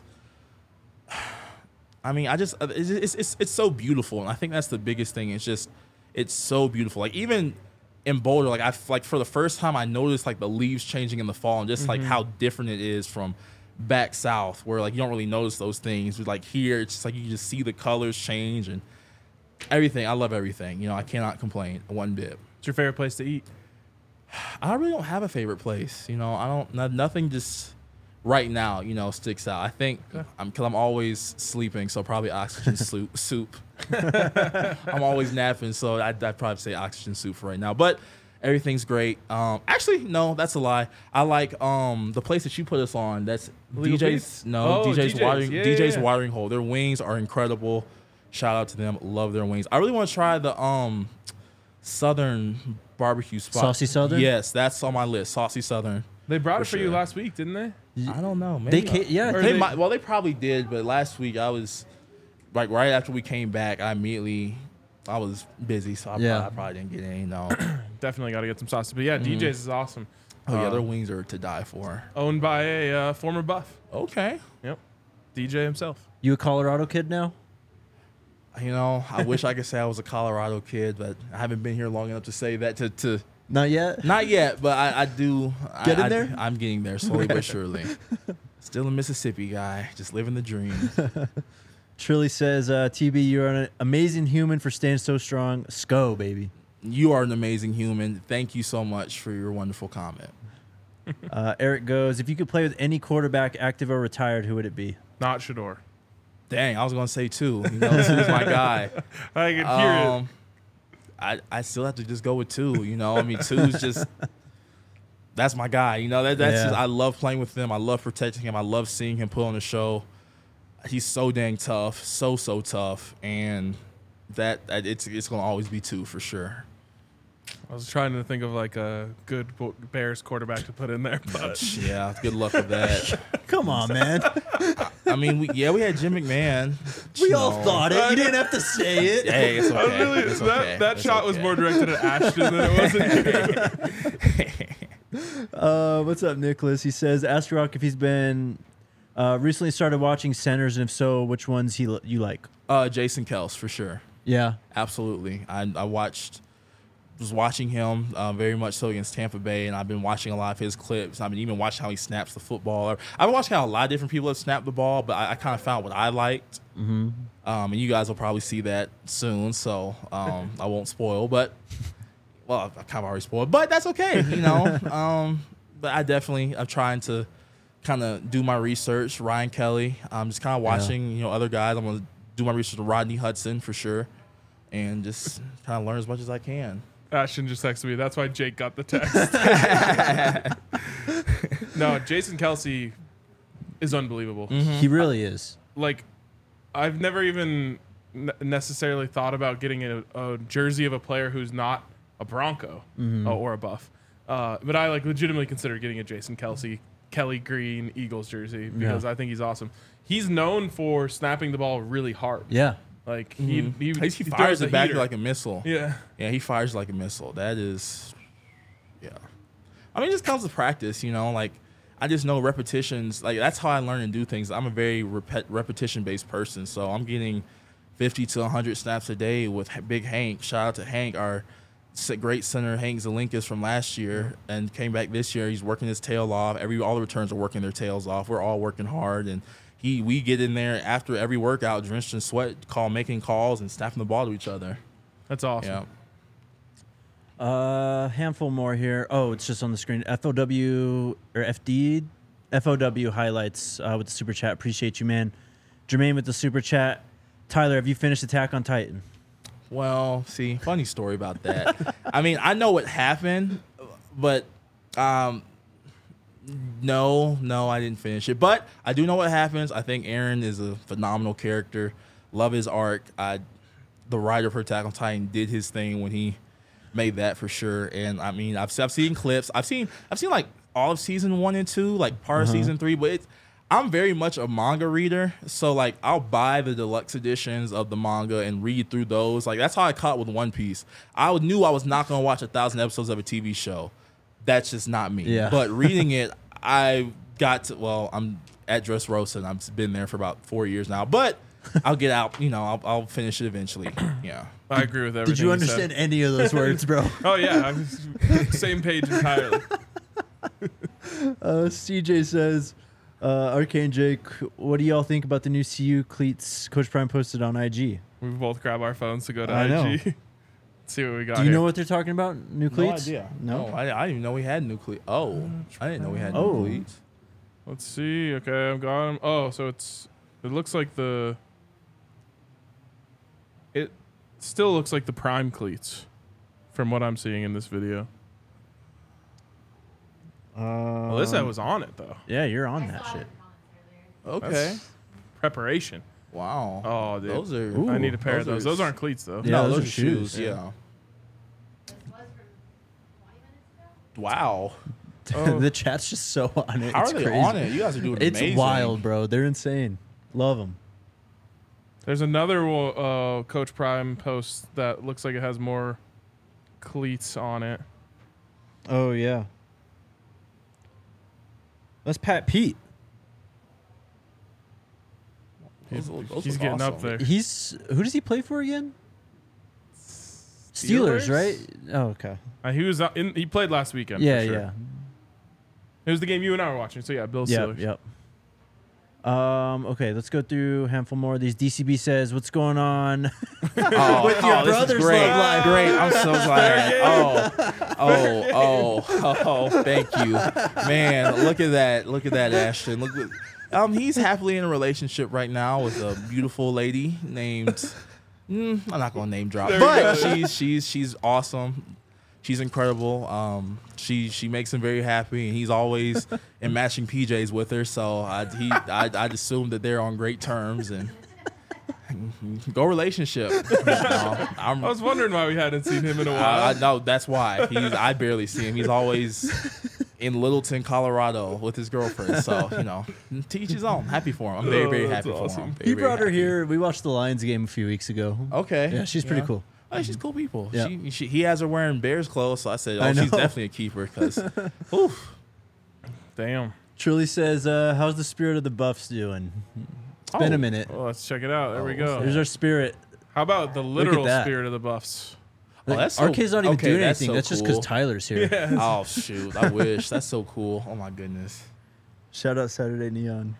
I mean, I just, it's, it's, it's, it's so beautiful, and I think that's the biggest thing. It's just, it's so beautiful. Like, even in Boulder, like, I, like, for the first time, I noticed, like, the leaves changing in the fall, and just, like, how different it is from back south, where, like, you don't really notice those things. But, like, here, it's just, like, you just see the colors change, and everything. I love everything. You know, I cannot complain one bit. What's your favorite place to eat? I really don't have a favorite place. You know, I don't. No, nothing just right now. You know, sticks out. I think Okay. I'm because I'm always sleeping, so probably oxygen soup. Soup. I'm always napping, so I'd, I'd probably say oxygen soup for right now. But everything's great. Um, actually, no, that's a lie. I like um the place that you put us on. That's Legal D J's. Pete's? No, Oh, D J's D J's. watering. Yeah, D J's yeah, yeah. watering hole. Their wings are incredible. Shout out to them. Love their wings. I really want to try the um Southern barbecue spot. Saucy Southern? Yes, that's on my list. Saucy Southern. They brought For it for you sure. last week, didn't they? I don't know. They Maybe ca- yeah, Or they, they- might. Well, they probably did, but last week I was like right after we came back. I immediately I was busy, so I, Yeah. probably, I probably didn't get any. No. Definitely got to get some sausage. But yeah, D J's is awesome. Oh yeah, Uh, their wings are to die for. Owned by a uh, former Buff. Okay. Yep. D J himself. You a Colorado kid now? You know, I wish I could say I was a Colorado kid, but I haven't been here long enough to say that. To, to Not yet? not yet, but I, I do. Get I, in I- there? I'm getting there slowly but surely. Still a Mississippi guy, just living the dream. Trilly says, uh, T B, you're an amazing human for staying so strong. Sco, baby. You are an amazing human. Thank you so much for your wonderful comment. Uh, Eric goes, if you could play with any quarterback, active or retired, who would it be? Not Shador. Dang, I was gonna say two. You know, two's my guy. I can hear Um, I I still have to just go with two. You know, I mean, two's just that's my guy. You know, that that's Yeah. just, I love playing with him. I love protecting him. I love seeing him put on the show. He's so dang tough, so so tough, and that, that it's it's gonna always be two for sure. it. I was trying to think of like a good Bo- Bears quarterback to put in there, but Yeah, good luck with that. Come on, man. I mean, we, yeah, we had Jim McMahon. We you all know. thought it. You didn't have to say it. Hey, it's I was okay. really, It's that, okay. that It's shot was okay. more directed at Ashton than it was at you. Uh, what's up, Nicholas? He says, ask Rock if he's been uh, recently started watching centers, and if so, which ones he you like. Uh, Jason Kels for sure. Yeah. Absolutely. I, I watched, was watching him uh, very much so against Tampa Bay, and I've been watching a lot of his clips. I've been even watching how he snaps the football. I've been watching how a lot of different people have snapped the ball, but I, I kind of found what I liked. Mm-hmm. Um, and you guys will probably see that soon, so um, I won't spoil. But well, I kind of already spoiled, but that's okay, you know. um, but I definitely I'm trying to kind of do my research. Ryan Kelly, I'm just kind of watching, you know, other guys. I'm gonna do my research with Rodney Hudson for sure, and just kind of learn as much as I can. Ashton just texted me. That's why Jake got the text. No, Jason Kelsey is unbelievable. He really is. Like, I've never even n- necessarily thought about getting a, a jersey of a player who's not a Bronco uh, or a Buff. Uh, but I like legitimately consider getting a Jason Kelsey, Kelly Green Eagles jersey because Yeah. I think he's awesome. He's known for snapping the ball really hard. Yeah. Like he he, He, he he fires throws it a back heater. like a missile. yeah. Yeah, he fires like a missile. That is, yeah. I mean, it just comes with practice, you know. Like, I just know repetitions. Like, that's how I learn and do things. I'm a very repet- repetition-based person, so I'm getting fifty to one hundred snaps a day with H- Big Hank. Shout out to Hank, our s- great center, Hank Zelinkas from last year, and came back this year. He's working his tail off. Every all the returns are working their tails off. We're all working hard, and he we get in there after every workout, drenched in sweat, call making calls and snapping the ball to each other. That's awesome. Yeah. Uh, handful more here. Oh, it's just on the screen. F O W or F D, F O W highlights uh, with the super chat. Appreciate you, man. Jermaine with the super chat. Tyler, have you finished Attack on Titan? Well, see, funny story about that. I mean, I know what happened, but um, no, no, I didn't finish it. But I do know what happens. I think Aaron is a phenomenal character. Love his arc. I, the writer for Attack on Titan did his thing when he made that for sure. And I mean, I've I've seen clips. I've seen I've seen like all of season one and two, like part of season three. But it's I'm very much a manga reader, so like I'll buy the deluxe editions of the manga and read through those. Like that's how I caught with One Piece. I knew I was not gonna watch a thousand episodes of a T V show. That's just not me. Yeah. But reading it, I got to. Well, I'm at Dressrosa, and I've been there for about four years now. But I'll get out. You know, I'll, I'll finish it eventually. Yeah. I agree with everything. Did you said. understand any of those words, bro? Oh yeah, I'm same page entirely. Uh, C J says, uh, Arcane Jake, what do y'all think about the new C U cleats Coach Prime posted on I G? We both grab our phones to go to I I know. G. See what we got. Do you here. know what they're talking about? New cleats? No idea. No. No, I, I didn't even know we had new cleats. Oh, I didn't know we had Oh. new cleats. Let's see. Okay, I've got them. Oh, so it's it looks like the it still looks like the Prime cleats from what I'm seeing in this video. Uh, Well, this guy was on it though. yeah, you're on that shit. Okay. That's preparation. Wow. Oh, dude. Those are. Ooh. I need a pair of those those. are- Those aren't cleats though. Yeah, no, those those, are are shoes. shoes. Yeah. Wow. Oh. The chat's just so on it. How it's are they crazy. on it? You guys are doing It's amazing. wild, bro. They're insane. Love them. There's another uh, Coach Prime post that looks like it has more cleats on it. Oh, yeah. That's Pat Pete. Those- those He's look getting up awesome. there. He's who does he play for again? Steelers, Steelers? right? Oh, okay. Uh, he was uh, in. He played last weekend. Yeah, for sure. yeah. It was the game you and I were watching. So yeah, Bill Yep, Steelers. yep. Um, okay, let's go through a handful more of these. D C B says, "What's going on?" Oh, With your oh, this is brother's great. love life. Great. I'm so glad. Oh, oh, oh, oh, thank you. Man, look at that. Look at that, Ashton. Look at Um, he's happily in a relationship right now with a beautiful lady named. Mm, I'm not gonna name drop, There we but go. she's she's she's awesome. She's incredible. Um, she she makes him very happy, and he's always in matching P Js with her. So I he I I'd assume that they're on great terms and go relationship. You know, I'm, I was wondering why we hadn't seen him in a I, while. I know that's why he's. I barely see him. He's always in Littleton, Colorado, with his girlfriend. So you know, teach his own. Happy for him. I'm very Oh, very that's happy for awesome. him. Very, He very brought her happy. here. We watched the Lions game a few weeks ago. Okay. Yeah, she's pretty cool. Oh, she's cool people. Yeah. She, she, he has her wearing Bears clothes, so I said, oh, I she's know. definitely a keeper. Because, oof. Damn. Truly says, uh, how's the spirit of the Buffs doing? It's been Oh. a minute. Well, let's check it out. There we Oh, go. There's our spirit. How about the literal that. spirit of the Buffs? Oh, that's so- R K's not even okay, doing that's anything. so That's just because cool. Tyler's here. Yeah. Oh, shoot. I wish. That's so cool. Oh, my goodness. Shout out Saturday Neon.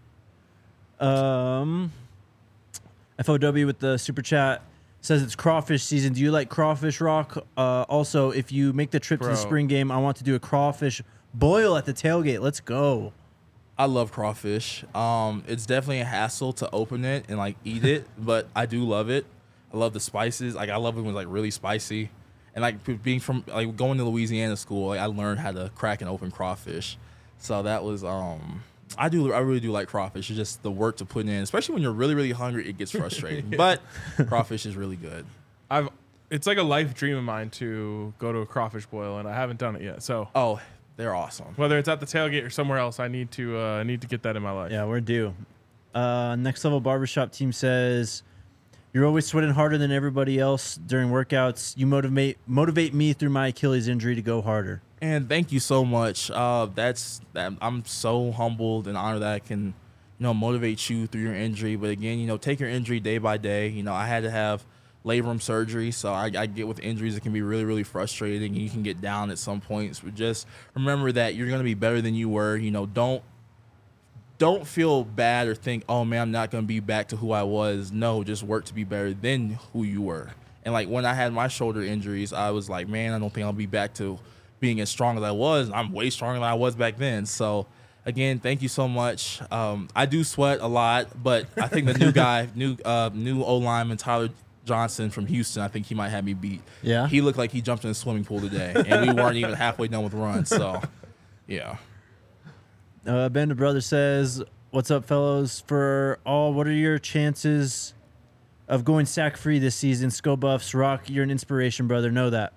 Um, F O W with the super chat says it's crawfish season. Do you like crawfish, Rock? Uh, also, if you make the trip to Bro. the spring game, I want to do a crawfish boil at the tailgate. Let's go. I love crawfish. Um, it's definitely a hassle to open it and, like, eat it, but I do love it. I love the spices. Like, I love it when it's, like, really spicy. And, like, p- being from, like, going to Louisiana school, like, I learned how to crack and open crawfish. So that was, um... I do. I really do like crawfish. It's just the work to put in, especially when you're really, really hungry. It gets frustrating. But crawfish is really good. I've. It's like a life dream of mine to go to a crawfish boil, and I haven't done it yet. So Oh, they're awesome. whether it's at the tailgate or somewhere else, I need to uh, need to get that in my life. Yeah, we're due. Uh, Next Level Barbershop team says, you're always sweating harder than everybody else during workouts. You motivate motivate me through my Achilles injury to go harder. And thank you so much. Uh, that's that. I'm so humbled and honored that I can, you know, motivate you through your injury. But again, you know, take your injury day by day. You know, I had to have labrum surgery, so I, I get with injuries it can be really, really frustrating, and you can get down at some points. But just remember that you're gonna be better than you were. You know, don't don't feel bad or think, oh man, I'm not gonna be back to who I was. No, just work to be better than who you were. And like when I had my shoulder injuries, I was like, man, I don't think I'll be back to being as strong as I was. I'm way stronger than I was back then. So again, thank you so much. Um, I do sweat a lot, but I think the new guy, new uh, new O lineman Tyler Johnson from Houston, I think he might have me beat. Yeah? He looked like he jumped in a swimming pool today, and we weren't even halfway done with runs. So yeah. Uh, Band of Brothers says, what's up, fellows? For all, what are your chances of going sack free this season? Skull Buffs, Rock, you're an inspiration, brother. Know that.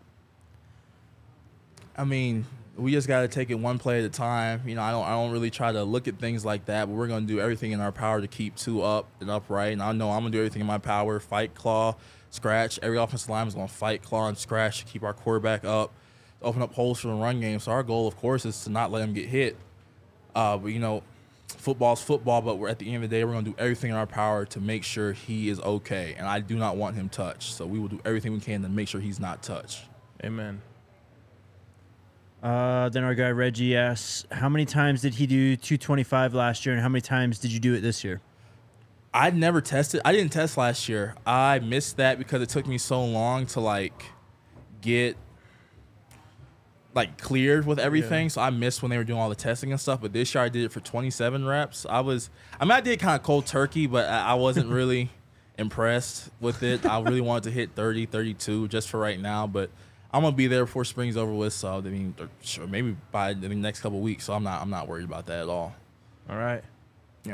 I mean, we just got to take it one play at a time. You know, I don't I don't really try to look at things like that, but we're going to do everything in our power to keep two up and upright. And I know I'm going to do everything in my power, fight, claw, scratch. Every offensive lineman is going to fight, claw, and scratch to keep our quarterback up, open up holes for the run game. So our goal, of course, is to not let him get hit. Uh, but, you know, football's football, but we're at the end of the day, we're going to do everything in our power to make sure he is okay. And I do not want him touched. So we will do everything we can to make sure he's not touched. Amen. Uh, then our guy Reggie asks, how many times did he do two twenty-five last year, and how many times did you do it this year? I never tested. I didn't test last year. I missed that because it took me so long to like get like cleared with everything. Yeah. So I missed when they were doing all the testing and stuff. But this year I did it for twenty-seven reps. I was, I mean, I did kind of cold turkey, but I, I wasn't really impressed with it. I really wanted to hit thirty, thirty-two just for right now. But I'm gonna be there before spring's over with. So I mean, sure, maybe by the next couple of weeks. So I'm not, I'm not worried about that at all. All right. Yeah.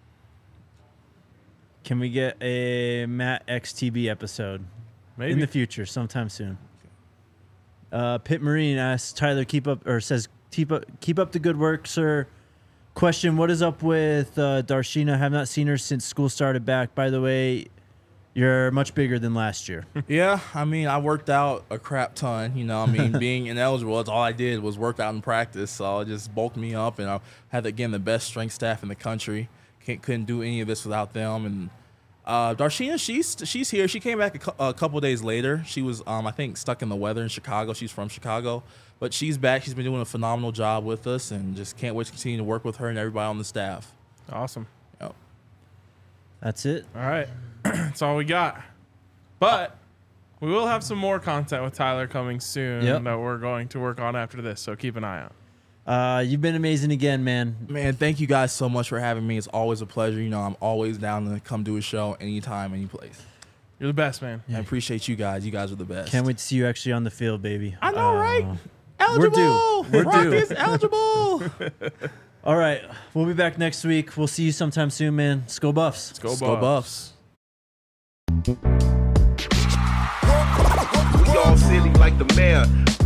Can we get a Matt X T B episode Maybe. in the future, sometime soon? Uh, Pitt Marine asks Tyler, keep up, or says keep up, keep up the good work, sir. Question: what is up with uh, Darshina? Have not seen her since school started back. By the way, you're much bigger than last year. Yeah, I mean, I worked out a crap ton. You know, I mean, being ineligible, that's all I did was work out and practice. So it just bulked me up, and I had, again, the best strength staff in the country. Can't, couldn't do any of this without them. And uh, Darshina, she's she's here. She came back a, cou- a couple days later. She was, um, I think, stuck in the weather in Chicago. She's from Chicago. But she's back. She's been doing a phenomenal job with us, and just can't wait to continue to work with her and everybody on the staff. Awesome. Yep. That's it. All right. That's all we got. But we will have some more content with Tyler coming soon Yep. that we're going to work on after this. So keep an eye out. Uh, you've been amazing again, man. Man, thank you guys so much for having me. It's always a pleasure. You know, I'm always down to come do a show anytime, any place. You're the best, man. I appreciate you guys. You guys are the best. Can't wait to see you actually on the field, baby. I know, Uh, right? We're due. Eligible. We're Rock due. is eligible. All right, we'll be back next week. We'll see you sometime soon, man. Let's go Buffs. Let's go, Let's go Buffs. Buffs. We all silly like the mayor.